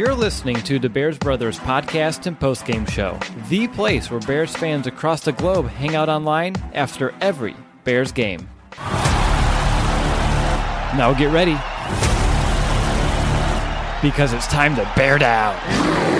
You're listening to the Bears Brothers podcast and postgame show, the place where Bears fans across the globe hang out online after every Bears game. Now get ready, because it's time to bear down.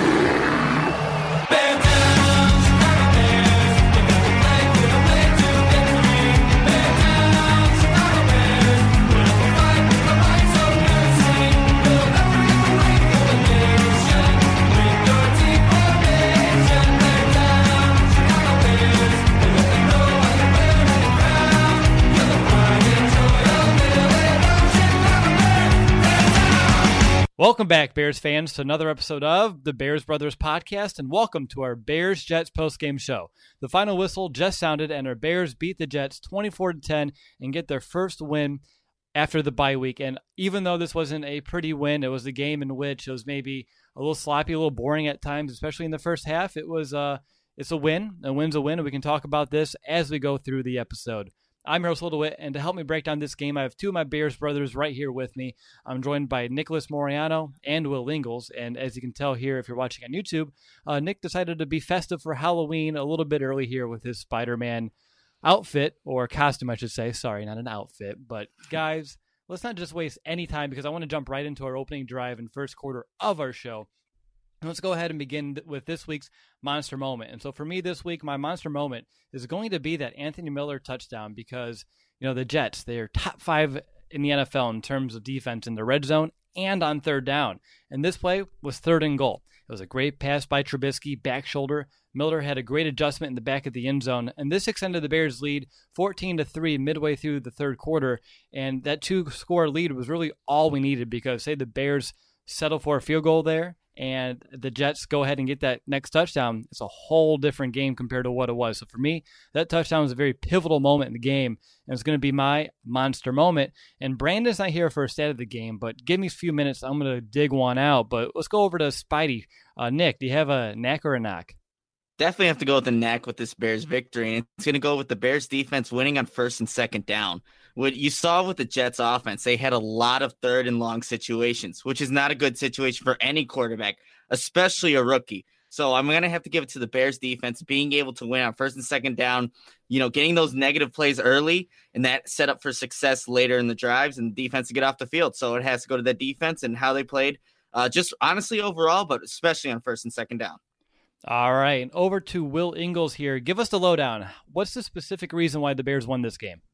Welcome back, Bears fans, to another episode of the Bears Brothers podcast, and welcome to our Bears-Jets postgame show. The final whistle just sounded, and our Bears beat the Jets 24-10 and get their first win after the bye week. And even though this wasn't a pretty win, it was a game in which it was maybe a little sloppy, a little boring at times, especially in the first half. It's a win. A win's a win, and we can talk about this as we go through the episode. I'm your host, Will DeWitt, and to help me break down this game, I have two of my Bears brothers right here with me. I'm joined by Nicholas Moriano and Will Ingles, and as you can tell here, if you're watching on YouTube, Nick decided to be festive for Halloween a little bit early here with his Spider-Man outfit, or costume, I should say. Sorry, not an outfit. But guys, let's not just waste any time, because I want to jump right into our opening drive and first quarter of our show. Let's go ahead and begin with this week's Monster Moment. And so for me this week, my Monster Moment is going to be that Anthony Miller touchdown because, you know, the Jets, they're top 5 in the NFL in terms of defense in the red zone and on third down. And this play was third and goal. It was a great pass by Trubisky, back shoulder. Miller had a great adjustment in the back of the end zone, and this extended the Bears' lead 14-3 midway through the third quarter. And that 2-score lead was really all we needed because, say, the Bears settle for a field goal there, and the Jets go ahead and get that next touchdown, it's a whole different game compared to what it was. So for me, that touchdown was a very pivotal moment in the game, and it's going to be my monster moment. And Brandon's not here for a stat of the game, but give me a few minutes. I'm going to dig one out. But let's go over to Spidey. Nick, do you have a knack or a knock? Definitely have to go with the knack with this Bears victory, and it's going to go with the Bears defense winning on first and second down. What you saw with the Jets offense, they had a lot of third and long situations, which is not a good situation for any quarterback, especially a rookie. So I'm going to have to give it to the Bears defense, being able to win on first and second down, you know, getting those negative plays early, and that set up for success later in the drives and the defense to get off the field. So it has to go to the defense and how they played, just honestly overall, but especially on first and second down. All right, over to Will Ingles here. Give us the lowdown. What's the specific reason why the Bears won this game?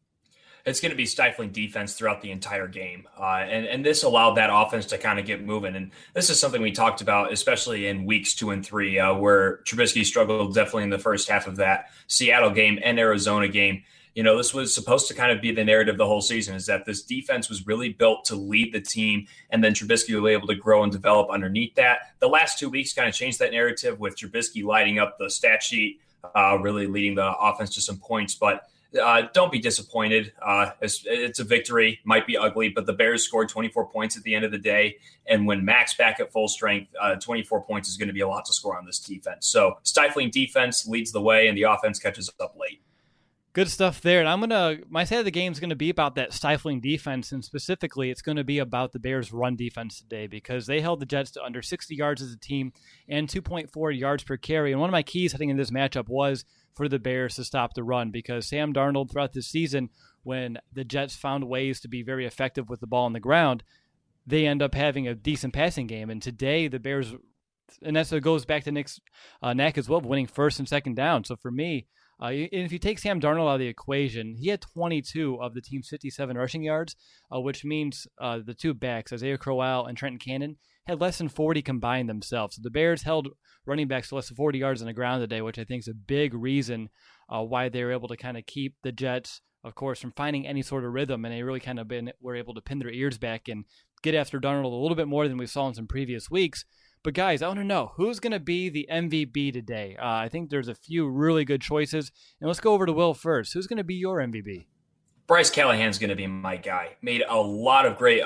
It's going to be stifling defense throughout the entire game. And this allowed that offense to kind of get moving. And this is something we talked about, especially in weeks 2 and 3, where Trubisky struggled definitely in the first half of that Seattle game and Arizona game. You know, this was supposed to kind of be the narrative the whole season, is that this defense was really built to lead the team, and then Trubisky was able to grow and develop underneath that. The last 2 weeks kind of changed that narrative with Trubisky lighting up the stat sheet, really leading the offense to some points. But don't be disappointed. It's a victory, might be ugly, but the Bears scored 24 points at the end of the day. And when Mac's back at full strength, 24 points is going to be a lot to score on this defense. So stifling defense leads the way, and the offense catches up late. Good stuff there. And my side of the game is going to be about that stifling defense, and specifically it's going to be about the Bears' run defense today because they held the Jets to under 60 yards as a team and 2.4 yards per carry. And one of my keys heading into this matchup was for the Bears to stop the run because Sam Darnold throughout this season, when the Jets found ways to be very effective with the ball on the ground, they end up having a decent passing game. And today the Bears, and that's what goes back to Nick's knack as well, winning first and second down. So for me, if you take Sam Darnold out of the equation, he had 22 of the team's 57 rushing yards, which means the two backs, Isaiah Crowell and Trenton Cannon, had less than 40 combined themselves. So the Bears held running backs to less than 40 yards on the ground today, which I think is a big reason why they were able to kind of keep the Jets, of course, from finding any sort of rhythm, and they really kind of were able to pin their ears back and get after Darnold a little bit more than we saw in some previous weeks. But guys, I want to know, who's going to be the MVP today? I think there's a few really good choices. And let's go over to Will first. Who's going to be your MVP? Bryce Callahan's going to be my guy. Made a lot of great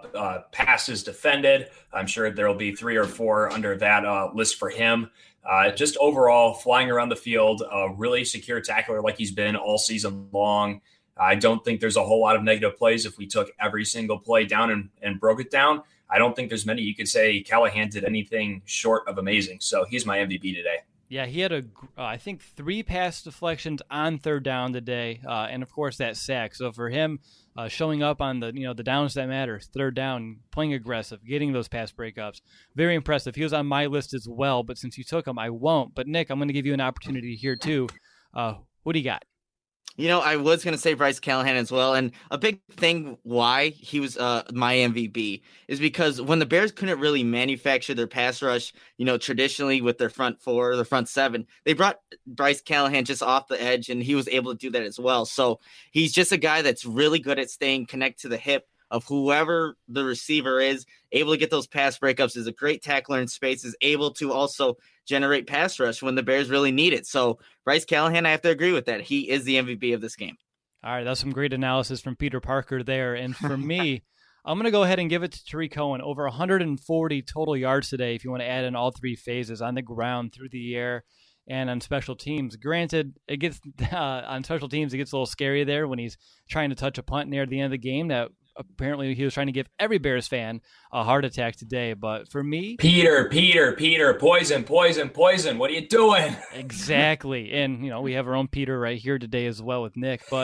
passes defended. I'm sure there will be 3 or 4 under that list for him. Just overall, flying around the field, really secure tackler like he's been all season long. I don't think there's a whole lot of negative plays if we took every single play down and broke it down. I don't think there's many you could say Callahan did anything short of amazing. So he's my MVP today. Yeah, he had I think 3 pass deflections on third down today, and of course that sack. So for him, showing up on the the downs that matter, third down, playing aggressive, getting those pass breakups, very impressive. He was on my list as well, but since you took him, I won't. But Nick, I'm going to give you an opportunity here too. What do you got? I was going to say Bryce Callahan as well. And a big thing why he was my MVP is because when the Bears couldn't really manufacture their pass rush, traditionally with their front 4, the front 7, they brought Bryce Callahan just off the edge, and he was able to do that as well. So he's just a guy that's really good at staying connected to the hip of whoever the receiver is, able to get those pass breakups, is a great tackler in space, is able to also generate pass rush when the Bears really need it. So Bryce Callahan, I have to agree with that. He is the MVP of this game. All right, that's some great analysis from Peter Parker there. And for me, I'm going to go ahead and give it to Tarik Cohen. Over 140 total yards today if you want to add in all 3 phases, on the ground, through the air, and on special teams. Granted, it gets on special teams, it gets a little scary there when he's trying to touch a punt near the end of the game that apparently he was trying to give every Bears fan a heart attack today. But for me, Peter, poison. What are you doing? Exactly. And, we have our own Peter right here today as well with Nick. But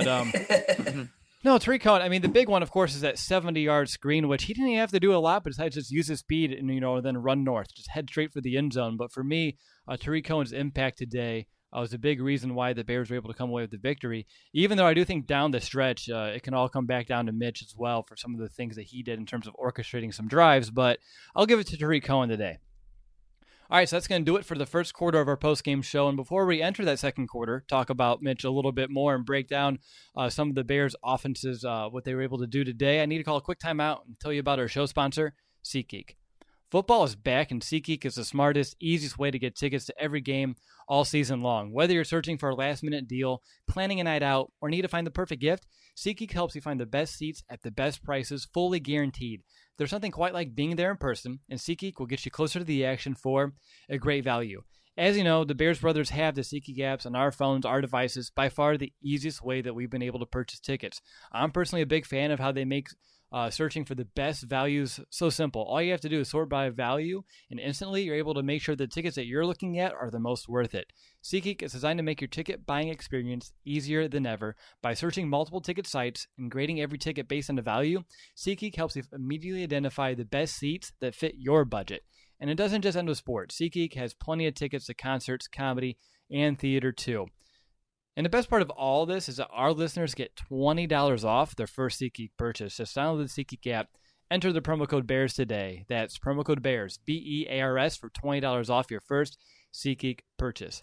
no, Tarik Cohen, I mean, the big one, of course, is that 70-yard screen, which he didn't even have to do a lot besides just use his speed and, then run north, just head straight for the end zone. But for me, Tarik Cohen's impact today was a big reason why the Bears were able to come away with the victory, even though I do think down the stretch, it can all come back down to Mitch as well for some of the things that he did in terms of orchestrating some drives. But I'll give it to Tarik Cohen today. All right, so that's going to do it for the first quarter of our post-game show. And before we enter that second quarter, talk about Mitch a little bit more and break down some of the Bears' offenses, what they were able to do today, I need to call a quick timeout and tell you about our show sponsor, SeatGeek. Football is back, and SeatGeek is the smartest, easiest way to get tickets to every game all season long. Whether you're searching for a last-minute deal, planning a night out, or need to find the perfect gift, SeatGeek helps you find the best seats at the best prices, fully guaranteed. There's nothing quite like being there in person, and SeatGeek will get you closer to the action for a great value. As you know, the Bears brothers have the SeatGeek apps on our phones, our devices, by far the easiest way that we've been able to purchase tickets. I'm personally a big fan of how they make searching for the best values so simple. All you have to do is sort by value, and instantly you're able to make sure the tickets that you're looking at are the most worth it. SeatGeek is designed to make your ticket buying experience easier than ever. By searching multiple ticket sites and grading every ticket based on the value, SeatGeek helps you immediately identify the best seats that fit your budget. And it doesn't just end with sports. SeatGeek has plenty of tickets to concerts, comedy, and theater too. And the best part of all this is that our listeners get $20 off their first SeatGeek purchase. Just download the SeatGeek app, enter the promo code BEARS today. That's promo code BEARS, BEARS, for $20 off your first SeatGeek purchase.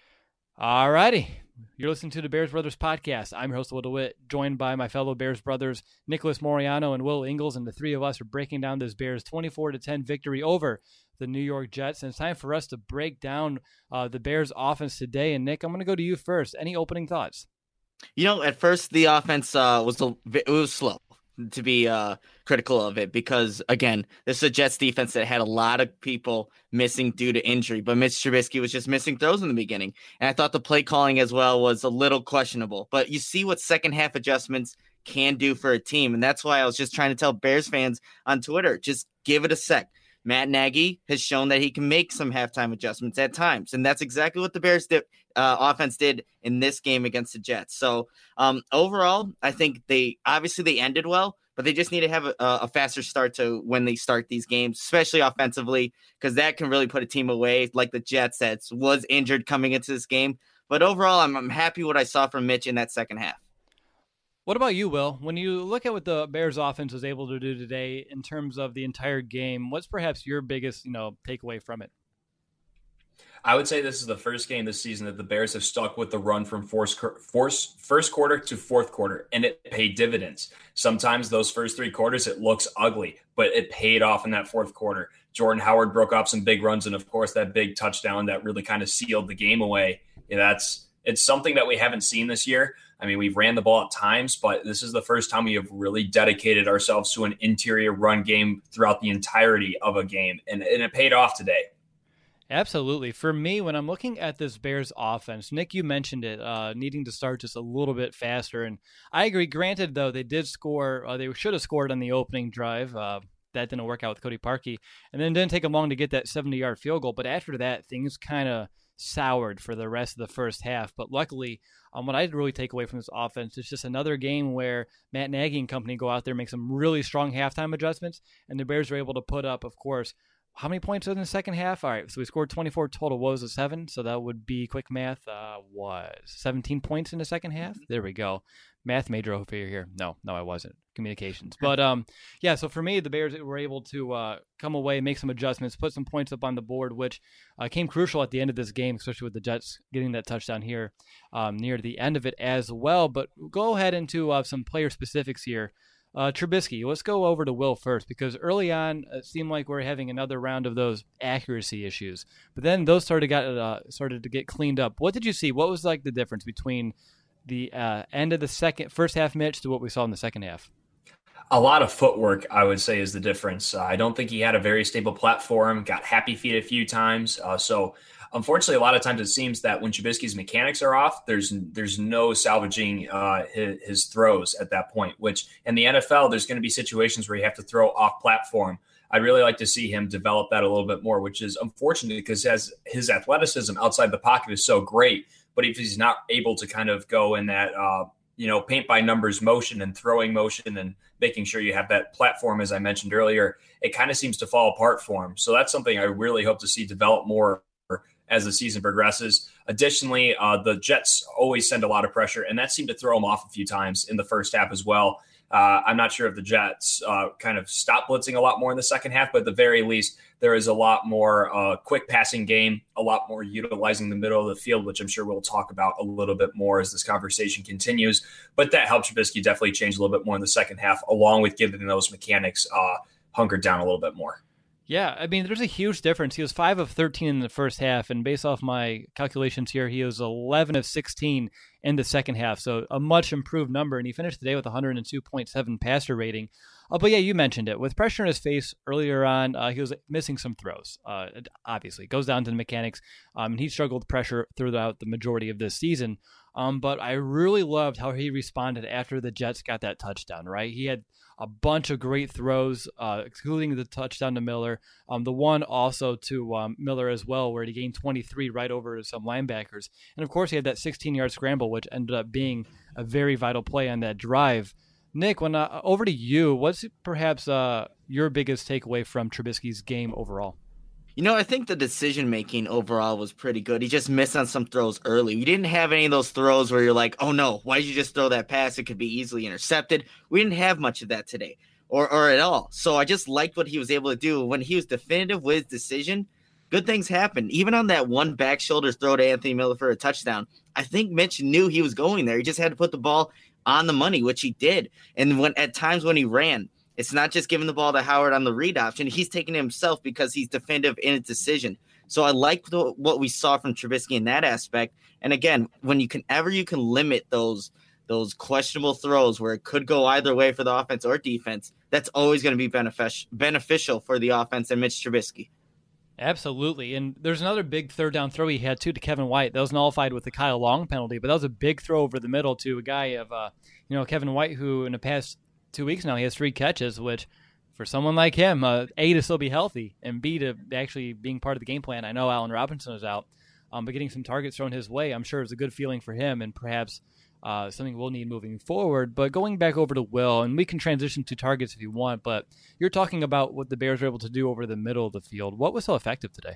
All righty. You're listening to the Bears Brothers podcast. I'm your host, Will DeWitt, joined by my fellow Bears brothers, Nicholas Moriano and Will Ingles, and the three of us are breaking down this Bears 24-10 victory over the New York Jets. And it's time for us to break down the Bears offense today. And Nick, I'm going to go to you first. Any opening thoughts? At first the offense was slow, to be critical of it, because again, this is a Jets defense that had a lot of people missing due to injury, but Mitch Trubisky was just missing throws in the beginning, and I thought the play calling as well was a little questionable. But you see what second half adjustments can do for a team, and that's why I was just trying to tell Bears fans on Twitter, just give it a sec. Matt Nagy has shown that he can make some halftime adjustments at times, and that's exactly what the Bears offense did in this game against the Jets. So overall, I think they ended well, but they just need to have a faster start to when they start these games, especially offensively, because that can really put a team away, like the Jets that was injured coming into this game. But overall, I'm happy what I saw from Mitch in that second half. What about you, Will? When you look at what the Bears offense was able to do today in terms of the entire game, what's perhaps your biggest, takeaway from it? I would say this is the first game this season that the Bears have stuck with the run from first quarter to fourth quarter, and it paid dividends. Sometimes those first 3 quarters, it looks ugly, but it paid off in that fourth quarter. Jordan Howard broke off some big runs, and of course that big touchdown that really kind of sealed the game away. It's something that we haven't seen this year. I mean, we've ran the ball at times, but this is the first time we have really dedicated ourselves to an interior run game throughout the entirety of a game, and it paid off today. Absolutely. For me, when I'm looking at this Bears offense, Nick, you mentioned it, needing to start just a little bit faster. And I agree. Granted, though, they did score. They should have scored on the opening drive. that didn't work out with Cody Parkey. And then it didn't take him long to get that 70-yard field goal. But after that, things kind of soured for the rest of the first half. But luckily, what I really take away from this offense is just another game where Matt Nagy and company go out there, make some really strong halftime adjustments, and the Bears are able to put up, of course, how many points in the second half? All right, so we scored 24 total. What was it, 7? So that would be, quick math, was 17 points in the second half? There we go. Math major over here. No, I wasn't. Communications. But, yeah, so for me, the Bears were able to come away, make some adjustments, put some points up on the board, which came crucial at the end of this game, especially with the Jets getting that touchdown here near the end of it as well. But go ahead into some player specifics here. Trubisky, let's go over to Will first, because early on it seemed like we're having another round of those accuracy issues, but then those started to get cleaned up. What did you see? What was like the difference between the end of the first half, Mitch, to what we saw in the second half? A lot of footwork, I would say, is the difference. I don't think he had a very stable platform, got happy feet a few times. So unfortunately, a lot of times it seems that when Trubisky's mechanics are off, there's no salvaging his throws at that point, which in the NFL, there's going to be situations where you have to throw off platform. I'd really like to see him develop that a little bit more, which is unfortunate because his athleticism outside the pocket is so great. But if he's not able to kind of go in that, paint by numbers motion and throwing motion and making sure you have that platform, as I mentioned earlier, it kind of seems to fall apart for him. So that's something I really hope to see develop more as the season progresses. Additionally, the Jets always send a lot of pressure, and that seemed to throw them off a few times in the first half as well. I'm not sure if the Jets kind of stopped blitzing a lot more in the second half, but at the very least, there is a lot more quick passing game, a lot more utilizing the middle of the field, which I'm sure we'll talk about a little bit more as this conversation continues. But that helped Trubisky definitely change a little bit more in the second half, along with giving those mechanics hunkered down a little bit more. Yeah, I mean, there's a huge difference. He was 5 of 13 in the first half, and based off my calculations here, he was 11 of 16 in the second half, so a much improved number, and he finished today with 102.7 passer rating. But yeah, you mentioned it. With pressure in his face earlier on, he was missing some throws. Obviously, it goes down to the mechanics, and he struggled with pressure throughout the majority of this season. But I really loved how he responded after the Jets got that touchdown, right? He had a bunch of great throws, including the touchdown to Miller. The one also to Miller as well, where he gained 23 right over some linebackers. And, of course, he had that 16-yard scramble, which ended up being a very vital play on that drive. Nick, when over to you, what's perhaps your biggest takeaway from Trubisky's game overall? I think the decision-making overall was pretty good. He just missed on some throws early. We didn't have any of those throws where you're like, oh, no, why did you just throw that pass? It could be easily intercepted. We didn't have much of that today or at all. So I just liked what he was able to do. When he was definitive with his decision, good things happened. Even on that one back shoulder throw to Anthony Miller for a touchdown, I think Mitch knew he was going there. He just had to put the ball on the money, which he did. And at times when he ran, it's not just giving the ball to Howard on the read option. He's taking it himself because he's definitive in his decision. So I like what we saw from Trubisky in that aspect. And again, when you can limit those questionable throws where it could go either way for the offense or defense, that's always going to be beneficial for the offense and Mitch Trubisky. Absolutely. And there's another big third down throw he had, too, to Kevin White. That was nullified with the Kyle Long penalty, but that was a big throw over the middle to a guy of, Kevin White, who in the past 2 weeks now, he has 3 catches, which for someone like him, A, to still be healthy, and B, to actually being part of the game plan. I know Allen Robinson is out, but getting some targets thrown his way, I'm sure is a good feeling for him and perhaps something we'll need moving forward. But going back over to Will, and we can transition to targets if you want, but you're talking about what the Bears were able to do over the middle of the field. What was so effective today?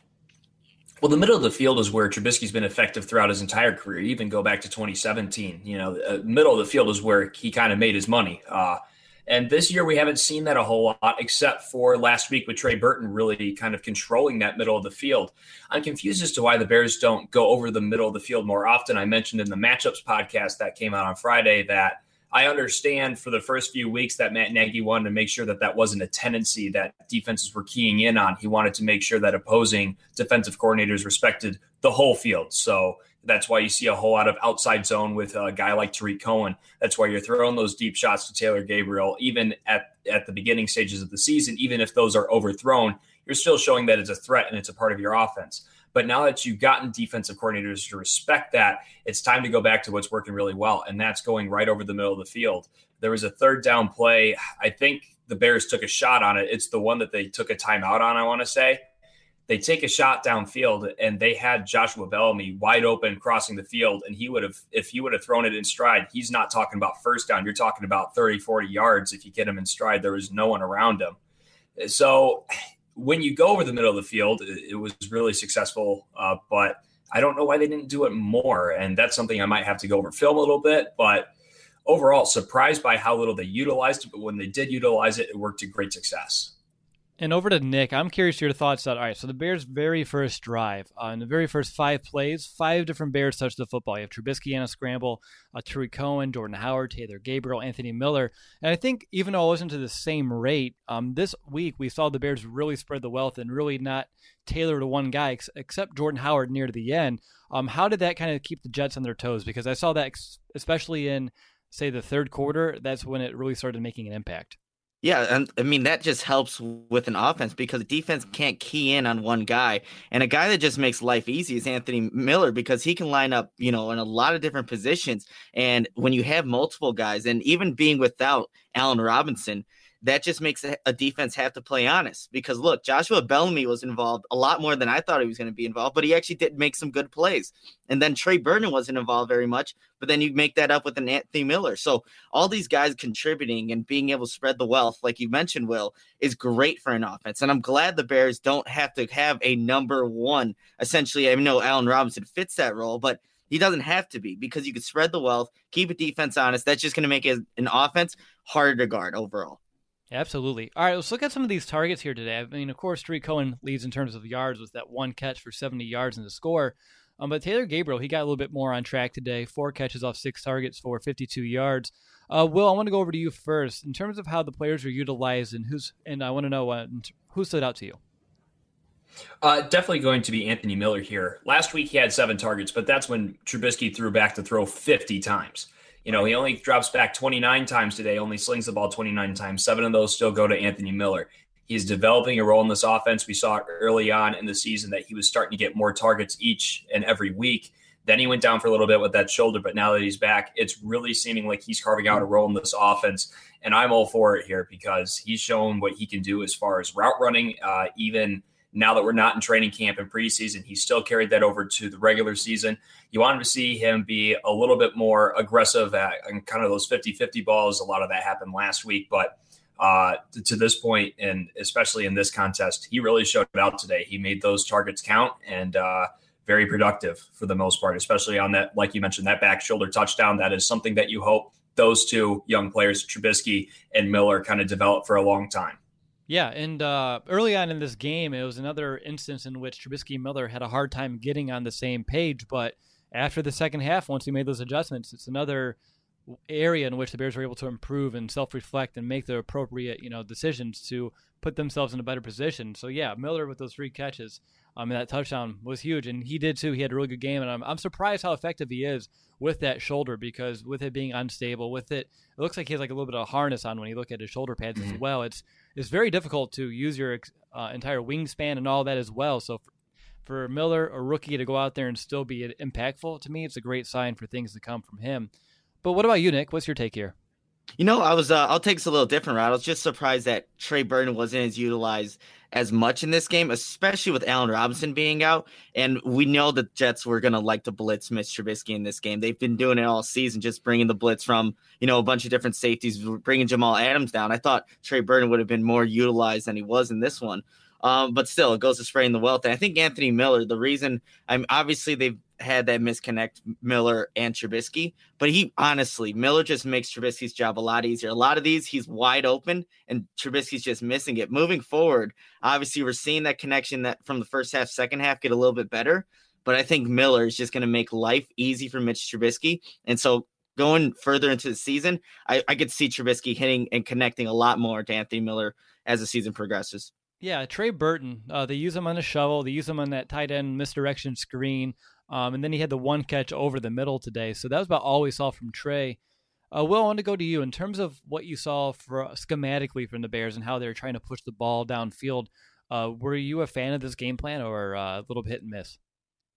Well, the middle of the field is where Trubisky's been effective throughout his entire career. Even go back to 2017. Middle of the field is where he kind of made his money. And this year we haven't seen that a whole lot, except for last week with Trey Burton really kind of controlling that middle of the field. I'm confused as to why the Bears don't go over the middle of the field more often. I mentioned in the Matchups podcast that came out on Friday that I understand for the first few weeks that Matt Nagy wanted to make sure that wasn't a tendency that defenses were keying in on. He wanted to make sure that opposing defensive coordinators respected the whole field. So that's why you see a whole lot of outside zone with a guy like Tariq Cohen. That's why you're throwing those deep shots to Taylor Gabriel, even at the beginning stages of the season. Even if those are overthrown, you're still showing that it's a threat and it's a part of your offense. But now that you've gotten defensive coordinators to respect that, it's time to go back to what's working really well, and that's going right over the middle of the field. There was a third down play. I think the Bears took a shot on it. It's the one that they took a timeout on, I want to say. They take a shot downfield, and they had Joshua Bellamy wide open crossing the field, and if he would have thrown it in stride, he's not talking about first down. You're talking about 30, 40 yards if you get him in stride. There was no one around him. So when you go over the middle of the field, it was really successful, but I don't know why they didn't do it more, and that's something I might have to go over film a little bit, but overall, surprised by how little they utilized it, but when they did utilize it, it worked to great success. And over to Nick, I'm curious your thoughts on, all right, so the Bears' very first drive, in the very first 5 plays, 5 different Bears touched the football. You have Trubisky on a scramble, Tariq Cohen, Jordan Howard, Taylor Gabriel, Anthony Miller. And I think even though it wasn't to the same rate, this week we saw the Bears really spread the wealth and really not tailor to one guy, except Jordan Howard near the end. How did that kind of keep the Jets on their toes? Because I saw that especially in, say, the third quarter, that's when it really started making an impact. Yeah, and I mean, that just helps with an offense because the defense can't key in on one guy. And a guy that just makes life easy is Anthony Miller because he can line up, in a lot of different positions. And when you have multiple guys, and even being without Allen Robinson, that just makes a defense have to play honest because, look, Joshua Bellamy was involved a lot more than I thought he was going to be involved, but he actually did make some good plays. And then Trey Burton wasn't involved very much, but then you make that up with an Anthony Miller. So all these guys contributing and being able to spread the wealth, like you mentioned, Will, is great for an offense. And I'm glad the Bears don't have to have a number one. Essentially, I know Allen Robinson fits that role, but he doesn't have to be because you can spread the wealth, keep a defense honest. That's just going to make an offense harder to guard overall. Absolutely. All right, let's look at some of these targets here today. I mean, of course, Tariq Cohen leads in terms of yards with that one catch for 70 yards in the score. But Taylor Gabriel, he got a little bit more on track today. 4 catches off 6 targets for 52 yards. Will, I want to go over to you first. In terms of how the players are utilized and I want to know who stood out to you. Definitely going to be Anthony Miller here. Last week he had 7 targets, but that's when Trubisky threw back to throw 50 times. He only drops back 29 times today, only slings the ball 29 times. 7 of those still go to Anthony Miller. He's developing a role in this offense. We saw it early on in the season that he was starting to get more targets each and every week. Then he went down for a little bit with that shoulder, but now that he's back, it's really seeming like he's carving out a role in this offense. And I'm all for it here because he's shown what he can do as far as route running, even now that we're not in training camp and preseason. He still carried that over to the regular season. You wanted to see him be a little bit more aggressive at kind of those 50-50 balls. A lot of that happened last week, but to this point, and especially in this contest, he really showed it out today. He made those targets count and very productive for the most part, especially on that, like you mentioned, that back shoulder touchdown. That is something that you hope those two young players, Trubisky and Miller, kind of develop for a long time. Yeah, and early on in this game, it was another instance in which Trubisky and Miller had a hard time getting on the same page, but after the second half, once he made those adjustments, it's another area in which the Bears were able to improve and self-reflect and make the appropriate, decisions to put themselves in a better position. So yeah, Miller with those 3 catches, and that touchdown was huge, and he did too. He had a really good game, and I'm surprised how effective he is with that shoulder because with it being unstable, it looks like he has like a little bit of harness on when you look at his shoulder pads as well. It's very difficult to use your entire wingspan and all that as well. So for Miller, a rookie, to go out there and still be impactful, to me, it's a great sign for things to come from him. But what about you, Nick? What's your take here? I'll take this a little different route. I was just surprised that Trey Burton wasn't as utilized as much in this game, especially with Allen Robinson being out. And we know the Jets were going to like to blitz Mitch Trubisky in this game. They've been doing it all season, just bringing the blitz from, a bunch of different safeties, bringing Jamal Adams down. I thought Trey Burton would have been more utilized than he was in this one. But still, it goes to spreading the wealth. And I think Anthony Miller, the reason obviously they've had that misconnect, Miller and Trubisky, but Miller just makes Trubisky's job a lot easier. A lot of these, he's wide open and Trubisky's just missing it. Moving forward, obviously we're seeing that connection that from the first half, second half get a little bit better, but I think Miller is just going to make life easy for Mitch Trubisky. And so going further into the season, I could see Trubisky hitting and connecting a lot more to Anthony Miller as the season progresses. Yeah, Trey Burton, they use him on the shovel. They use him on that tight end misdirection screen. And then he had the one catch over the middle today. So that was about all we saw from Trey. Will, I want to go to you. In terms of what you saw schematically from the Bears and how they're trying to push the ball downfield, were you a fan of this game plan or a little hit and miss?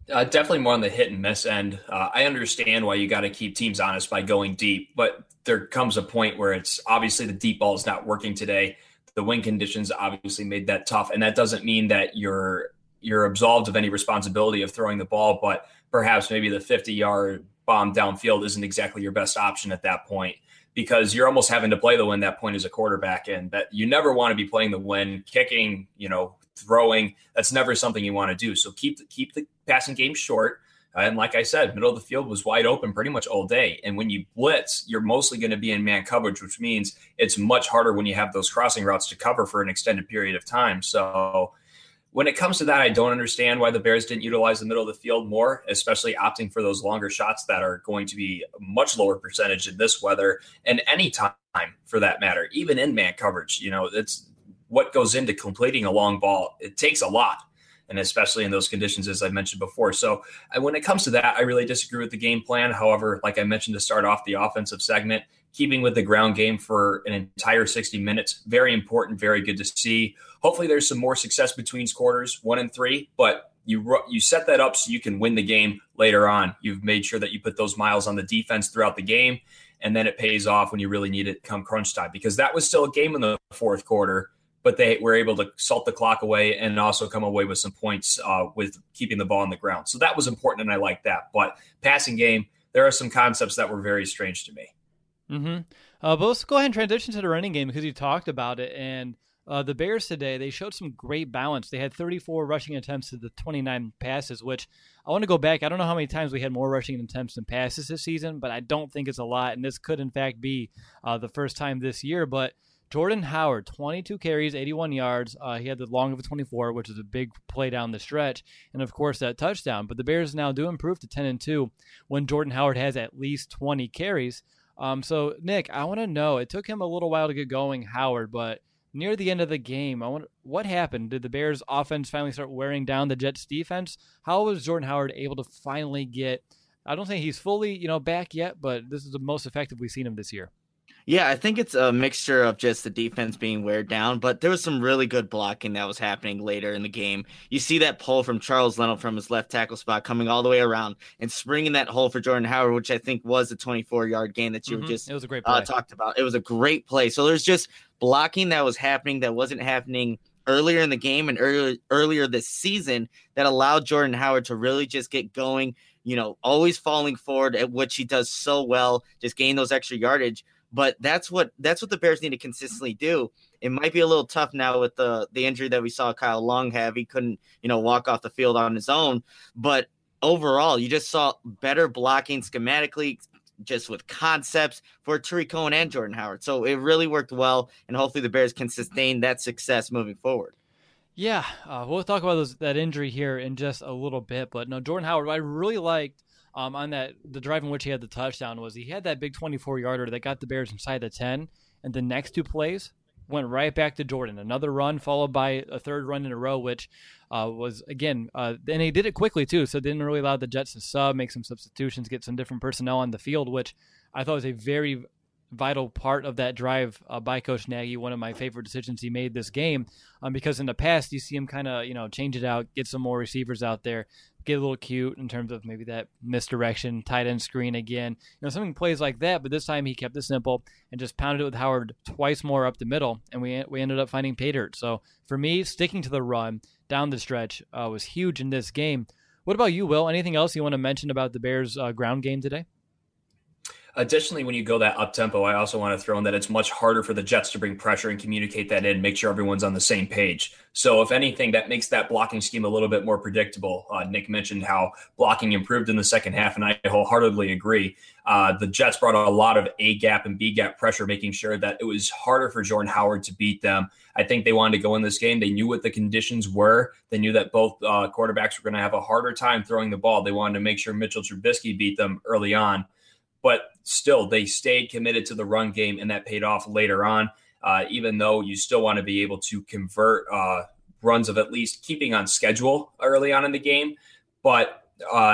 Definitely more on the hit and miss end. I understand why you got to keep teams honest by going deep, but there comes a point where it's obviously the deep ball is not working today. The wind conditions obviously made that tough, and that doesn't mean that you're absolved of any responsibility of throwing the ball, but perhaps maybe the 50-yard bomb downfield isn't exactly your best option at that point, because you're almost having to play the wind that point as a quarterback, and that you never want to be playing the wind, kicking, throwing. That's never something you want to do. So keep the passing game short. And like I said, middle of the field was wide open pretty much all day. And when you blitz, you're mostly going to be in man coverage, which means it's much harder when you have those crossing routes to cover for an extended period of time. So when it comes to that, I don't understand why the Bears didn't utilize the middle of the field more, especially opting for those longer shots that are going to be a much lower percentage in this weather and any time for that matter, even in man coverage. It's what goes into completing a long ball. It takes a lot, and especially in those conditions, as I mentioned before. So when it comes to that, I really disagree with the game plan. However, like I mentioned to start off the offensive segment, keeping with the ground game for an entire 60 minutes, very important, very good to see. Hopefully there's some more success between quarters 1 and 3, but you set that up so you can win the game later on. You've made sure that you put those miles on the defense throughout the game, and then it pays off when you really need it come crunch time, because that was still a game in the fourth quarter, but they were able to salt the clock away and also come away with some points with keeping the ball on the ground. So that was important, and I like that. But passing game, there are some concepts that were very strange to me. Mm-hmm. But let's go ahead and transition to the running game, because you talked about it. And the Bears today, they showed some great balance. They had 34 rushing attempts to the 29 passes, which I want to go back. I don't know how many times we had more rushing attempts than passes this season, but I don't think it's a lot. And this could, in fact, be the first time this year. But Jordan Howard, 22 carries, 81 yards. He had the long of a 24, which is a big play down the stretch. And, of course, that touchdown. But the Bears now do improve to 10-2 when Jordan Howard has at least 20 carries. So, Nick, I want to know, it took him a little while to get going, Howard, but near the end of the game, what happened? Did the Bears' offense finally start wearing down the Jets' defense? How was Jordan Howard able to finally get, I don't think he's fully, back yet, but this is the most effective we've seen him this year. Yeah, I think it's a mixture of just the defense being wear down, but there was some really good blocking that was happening later in the game. You see that pull from Charles Leno from his left tackle spot coming all the way around and springing that hole for Jordan Howard, which I think was a 24-yard gain that you just it was a great play. Talked about. It was a great play. So there's just blocking that was happening that wasn't happening earlier in the game and earlier this season that allowed Jordan Howard to really just get going, always falling forward, at which he does so well, just gain those extra yardage. But that's what the Bears need to consistently do. It might be a little tough now with the injury that we saw Kyle Long have. He couldn't, walk off the field on his own. But overall, you just saw better blocking schematically, just with concepts for Tariq Cohen and Jordan Howard. So it really worked well, and hopefully the Bears can sustain that success moving forward. Yeah, we'll talk about that injury here in just a little bit. But no, Jordan Howard, what I really liked on the drive in which he had the touchdown was he had that big 24-yarder that got the Bears inside the 10, and the next two plays went right back to Jordan. Another run followed by a third run in a row, which was, again, and he did it quickly too, so it didn't really allow the Jets to sub, make some substitutions, get some different personnel on the field, which I thought was a very vital part of that drive by Coach Nagy, one of my favorite decisions he made this game, because in the past you see him kind of change it out, get some more receivers out there, get a little cute in terms of maybe that misdirection, tight end screen again, something plays like that. But this time he kept it simple and just pounded it with Howard twice more up the middle, and we ended up finding pay dirt. So for me, sticking to the run down the stretch was huge in this game. What about you, Will? Anything else you want to mention about the Bears' ground game today? Additionally, when you go that up-tempo, I also want to throw in that it's much harder for the Jets to bring pressure and communicate that in, make sure everyone's on the same page. So if anything, that makes that blocking scheme a little bit more predictable. Nick mentioned how blocking improved in the second half, and I wholeheartedly agree. The Jets brought a lot of A-gap and B-gap pressure, making sure that it was harder for Jordan Howard to beat them. I think they wanted to go in this game. They knew what the conditions were. They knew that both quarterbacks were going to have a harder time throwing the ball. They wanted to make sure Mitchell Trubisky beat them early on. But still, they stayed committed to the run game, and that paid off later on, even though you still want to be able to convert runs of at least keeping on schedule early on in the game. But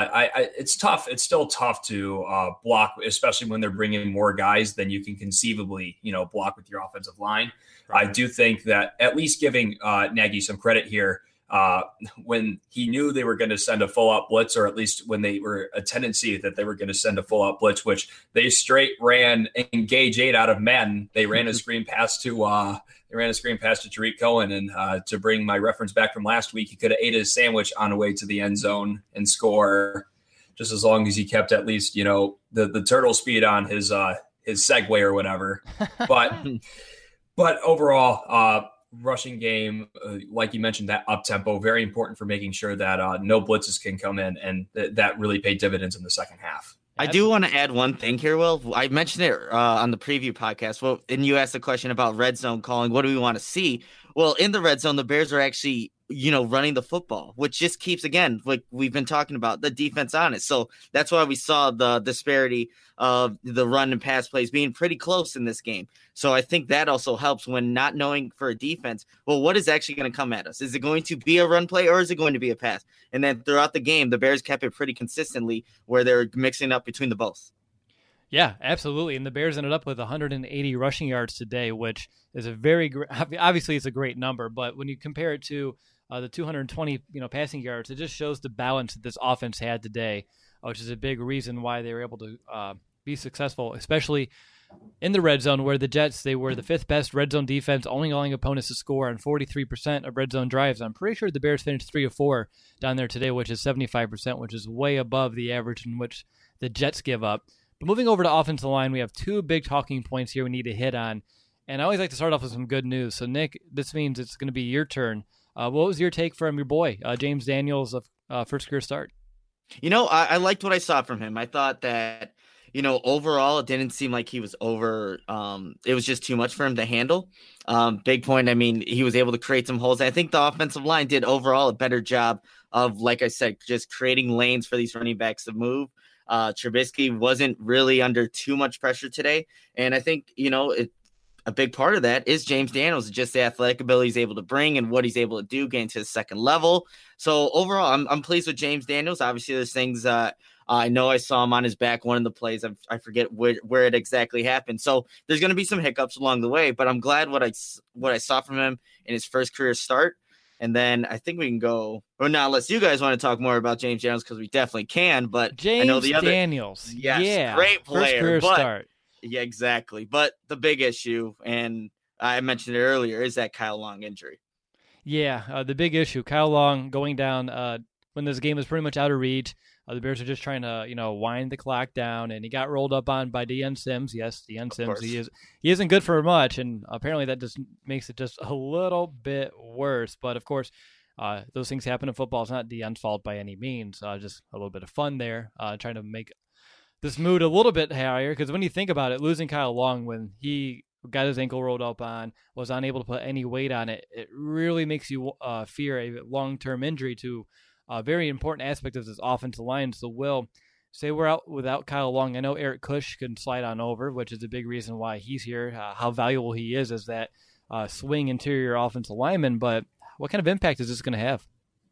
it's tough. It's still tough to block, especially when they're bringing more guys than you can conceivably, block with your offensive line. Right. I do think that at least giving Nagy some credit here, when he knew they were going to send a full-out blitz, or at least when they were a tendency that they were going to send a full-out blitz, which they straight ran engage 8 out of men. They ran a screen pass to Tariq Cohen, and to bring my reference back from last week, he could have ate his sandwich on the way to the end zone and score, just as long as he kept at least, the turtle speed on his Segway or whatever. But overall, rushing game, like you mentioned, that up tempo, very important for making sure that no blitzes can come in, and that really paid dividends in the second half. I do want to add one thing here, Will. I mentioned it on the preview podcast. Well, and you asked a question about red zone calling. What do we want to see? Well, in the red zone, the Bears are actually, running the football, which just keeps, again, like we've been talking about, the defense on it. So that's why we saw the disparity of the run and pass plays being pretty close in this game. So I think that also helps when not knowing for a defense, well, what is actually going to come at us? Is it going to be a run play or is it going to be a pass? And then throughout the game, the Bears kept it pretty consistently where they're mixing up between the both. Yeah, absolutely. And the Bears ended up with 180 rushing yards today, which is obviously it's a great number, but when you compare it to the 220, passing yards, it just shows the balance that this offense had today, which is a big reason why they were able to be successful, especially in the red zone, where the Jets, they were the 5th best red zone defense, only allowing opponents to score on 43% of red zone drives. I'm pretty sure the Bears finished 3 of 4 down there today, which is 75%, which is way above the average in which the Jets give up. But moving over to offensive line, we have 2 big talking points here we need to hit on. And I always like to start off with some good news. So, Nick, this means it's going to be your turn. What was your take from your boy, James Daniels, of first career start? I liked what I saw from him. I thought that, overall, it didn't seem like he was over. It was just too much for him to handle. Big point. I mean, he was able to create some holes. I think the offensive line did overall a better job of, like I said, just creating lanes for these running backs to move. Trubisky wasn't really under too much pressure today. And I think, a big part of that is James Daniels, just the athletic ability he's able to bring and what he's able to do getting to the second level. So overall, I'm pleased with James Daniels. Obviously, there's things I know I saw him on his back one of the plays. I forget where it exactly happened. So there's going to be some hiccups along the way, but I'm glad what I saw from him in his first career start. And then I think we can go, or not, unless you guys want to talk more about James Daniels, because we definitely can. But James I know the other Daniels, yes, great player, first career start. Yeah, exactly. But the big issue, and I mentioned it earlier, is that Kyle Long injury. Yeah, the big issue, Kyle Long going down when this game was pretty much out of reach. The Bears are just trying to, wind the clock down, and he got rolled up on by Deion Sims. Yes, Deion Sims. He isn't good for much, and apparently that just makes it just a little bit worse. But of course, those things happen in football. It's not Deion's fault by any means. Just a little bit of fun there, trying to make this mood a little bit higher, because when you think about it, losing Kyle Long when he got his ankle rolled up on, was unable to put any weight on it, it really makes you fear a long-term injury to a very important aspect of this offensive line. So, Will, say we're out without Kyle Long. I know Eric Kush can slide on over, which is a big reason why he's here, how valuable he is as that swing interior offensive lineman, but what kind of impact is this going to have?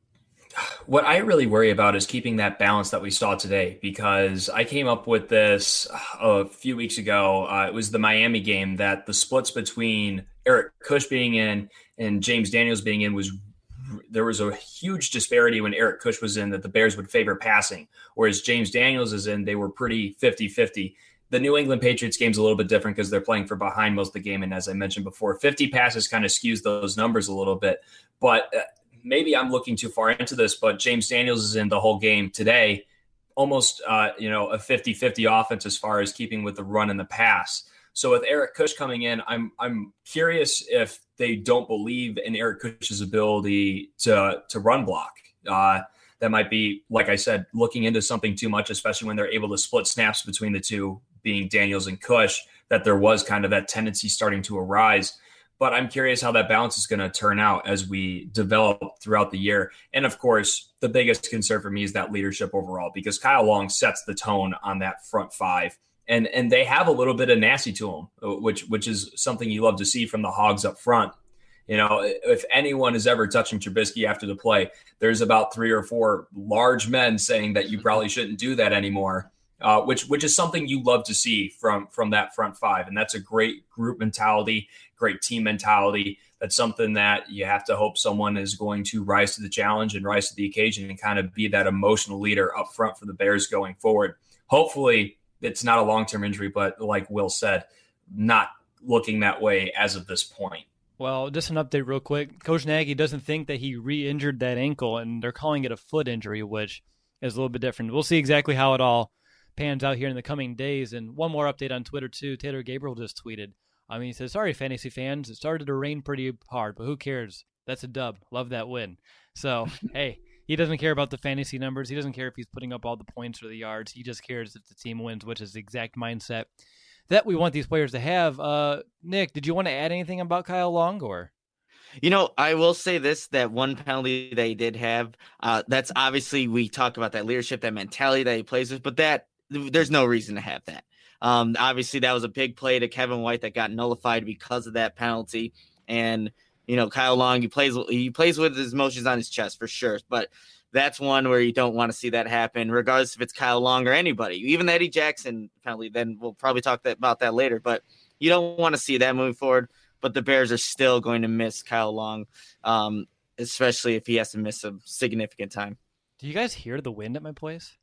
What I really worry about is keeping that balance that we saw today, because I came up with this a few weeks ago. It was the Miami game, that the splits between Eric Kush being in and James Daniels being in there was a huge disparity when Eric Kush was in, that the Bears would favor passing, whereas James Daniels is in, they were pretty 50-50. The New England Patriots game's a little bit different because they're playing for behind most of the game. And as I mentioned before, 50 passes kind of skews those numbers a little bit. But maybe I'm looking too far into this, but James Daniels is in the whole game today, almost a 50-50 offense as far as keeping with the run and the pass. So with Eric Kush coming in, I'm curious if they don't believe in Eric Kush's ability to run block. That might be, like I said, looking into something too much, especially when they're able to split snaps between the two, being Daniels and Kush, that there was kind of that tendency starting to arise. But I'm curious how that balance is going to turn out as we develop throughout the year. And of course, the biggest concern for me is that leadership overall, because Kyle Long sets the tone on that front five. And they have a little bit of nasty to them, which is something you love to see from the Hogs up front. If anyone is ever touching Trubisky after the play, there's about 3 or 4 large men saying that you probably shouldn't do that anymore, which is something you love to see from that front five. And that's a great group mentality, great team mentality That's something that you have to hope someone is going to rise to the challenge and rise to the occasion and kind of be that emotional leader up front for the Bears going forward. Hopefully it's not a long-term injury, but like Will said, not looking that way as of this point. Well, just an update real quick. Coach Nagy doesn't think that he re-injured that ankle, and they're calling it a foot injury, which is a little bit different. We'll see exactly how it all pans out here in the coming days. And one more update on Twitter, too. Taylor Gabriel just tweeted. He says, sorry, fantasy fans. It started to rain pretty hard, but who cares? That's a dub. Love that win. So, hey, he doesn't care about the fantasy numbers. He doesn't care if he's putting up all the points or the yards. He just cares if the team wins, which is the exact mindset that we want these players to have. Nick, did you want to add anything about Kyle Long? Or? I will say this, that one penalty that he did have, that's obviously, we talk about that leadership, that mentality that he plays with, but there's no reason to have that. Obviously, that was a big play to Kevin White that got nullified because of that penalty. And, Kyle Long, he plays with his emotions on his chest for sure. But that's one where you don't want to see that happen, regardless if it's Kyle Long or anybody. Even the Eddie Jackson penalty, then we'll probably talk about that later. But you don't want to see that moving forward. But the Bears are still going to miss Kyle Long, especially if he has to miss a significant time. Do you guys hear the wind at my place?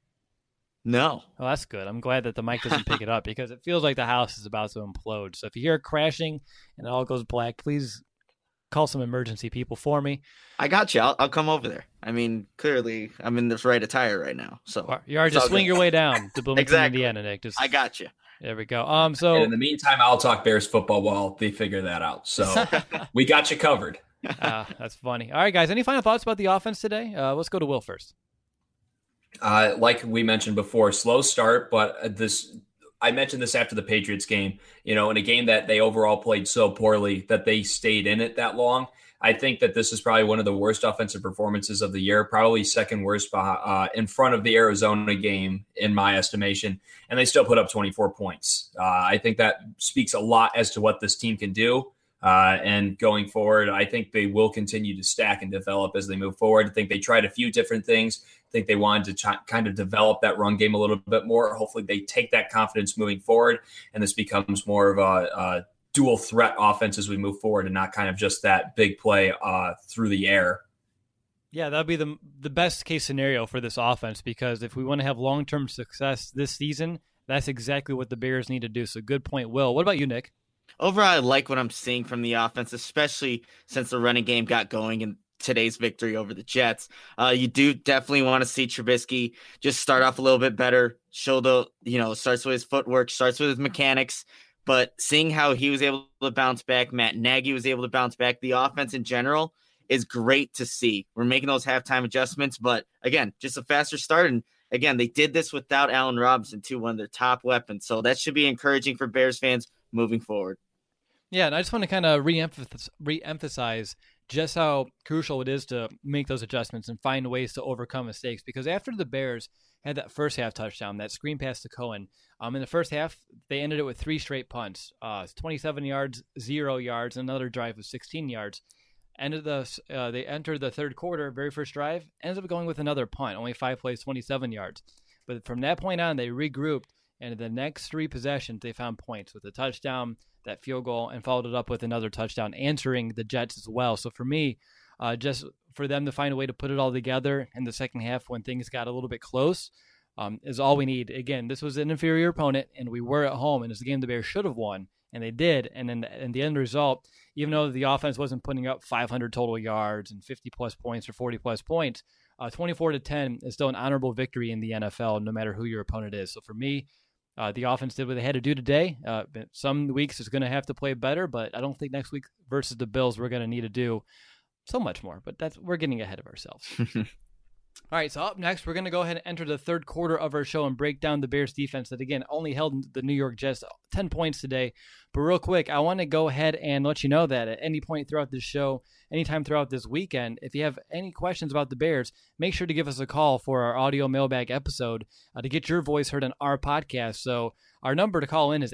No. Well, that's good. I'm glad that the mic doesn't pick it up because it feels like the house is about to implode. So if you hear it crashing and it all goes black, please call some emergency people for me. I got you. I'll come over there. Clearly, I'm in this right attire right now. So you are just swing your way down to Bloomington, exactly. Indiana, Nick. I got you. There we go. So and in the meantime, I'll talk Bears football while they figure that out. So we got you covered. That's funny. All right, guys. Any final thoughts about the offense today? Let's go to Will first. Like we mentioned before, slow start, but I mentioned this after the Patriots game, in a game that they overall played so poorly that they stayed in it that long. I think that this is probably one of the worst offensive performances of the year, probably second worst in front of the Arizona game, in my estimation, and they still put up 24 points. I think that speaks a lot as to what this team can do. And going forward, I think they will continue to stack and develop as they move forward. I think they tried a few different things. I think they wanted to kind of develop that run game a little bit more. Hopefully they take that confidence moving forward, and this becomes more of a dual threat offense as we move forward and not kind of just that big play through the air. Yeah, that'd be the best case scenario for this offense, because if we want to have long-term success this season, that's exactly what the Bears need to do. So good point, Will. What about you, Nick? Overall, I like what I'm seeing from the offense, especially since the running game got going in today's victory over the Jets. You do definitely want to see Trubisky just start off a little bit better, show starts with his footwork, starts with his mechanics, but seeing how he was able to bounce back, Matt Nagy was able to bounce back, the offense in general is great to see. We're making those halftime adjustments, but again, just a faster start. And again, they did this without Allen Robinson, too, one of their top weapons. So that should be encouraging for Bears fans moving forward. Yeah, and I just want to kind of re-emphasize just how crucial it is to make those adjustments and find ways to overcome mistakes. Because after the Bears had that first half touchdown, that screen pass to Cohen, in the first half, they ended it with 3 straight punts, 27 yards, 0 yards, another drive of 16 yards. They entered the third quarter, very first drive, ends up going with another punt, only 5 plays, 27 yards. But from that point on, they regrouped, and in the next 3 possessions, they found points with a touchdown, that field goal, and followed it up with another touchdown, answering the Jets as well. So for me, just for them to find a way to put it all together in the second half when things got a little bit close is all we need. Again, this was an inferior opponent, and we were at home, and it's a game the Bears should have won, and they did. And then in the end result, even though the offense wasn't putting up 500 total yards and 50-plus points or 40-plus points, 24-10 is still an honorable victory in the NFL, no matter who your opponent is. So for me, the offense did what they had to do today. Some weeks it's going to have to play better, but I don't think next week versus the Bills we're going to need to do so much more. But we're getting ahead of ourselves. All right, so up next, we're going to go ahead and enter the third quarter of our show and break down the Bears defense that, again, only held the New York Jets 10 points today. But real quick, I want to go ahead and let you know that at any point throughout this show, anytime throughout this weekend, if you have any questions about the Bears, make sure to give us a call for our audio mailbag episode to get your voice heard on our podcast. So our number to call in is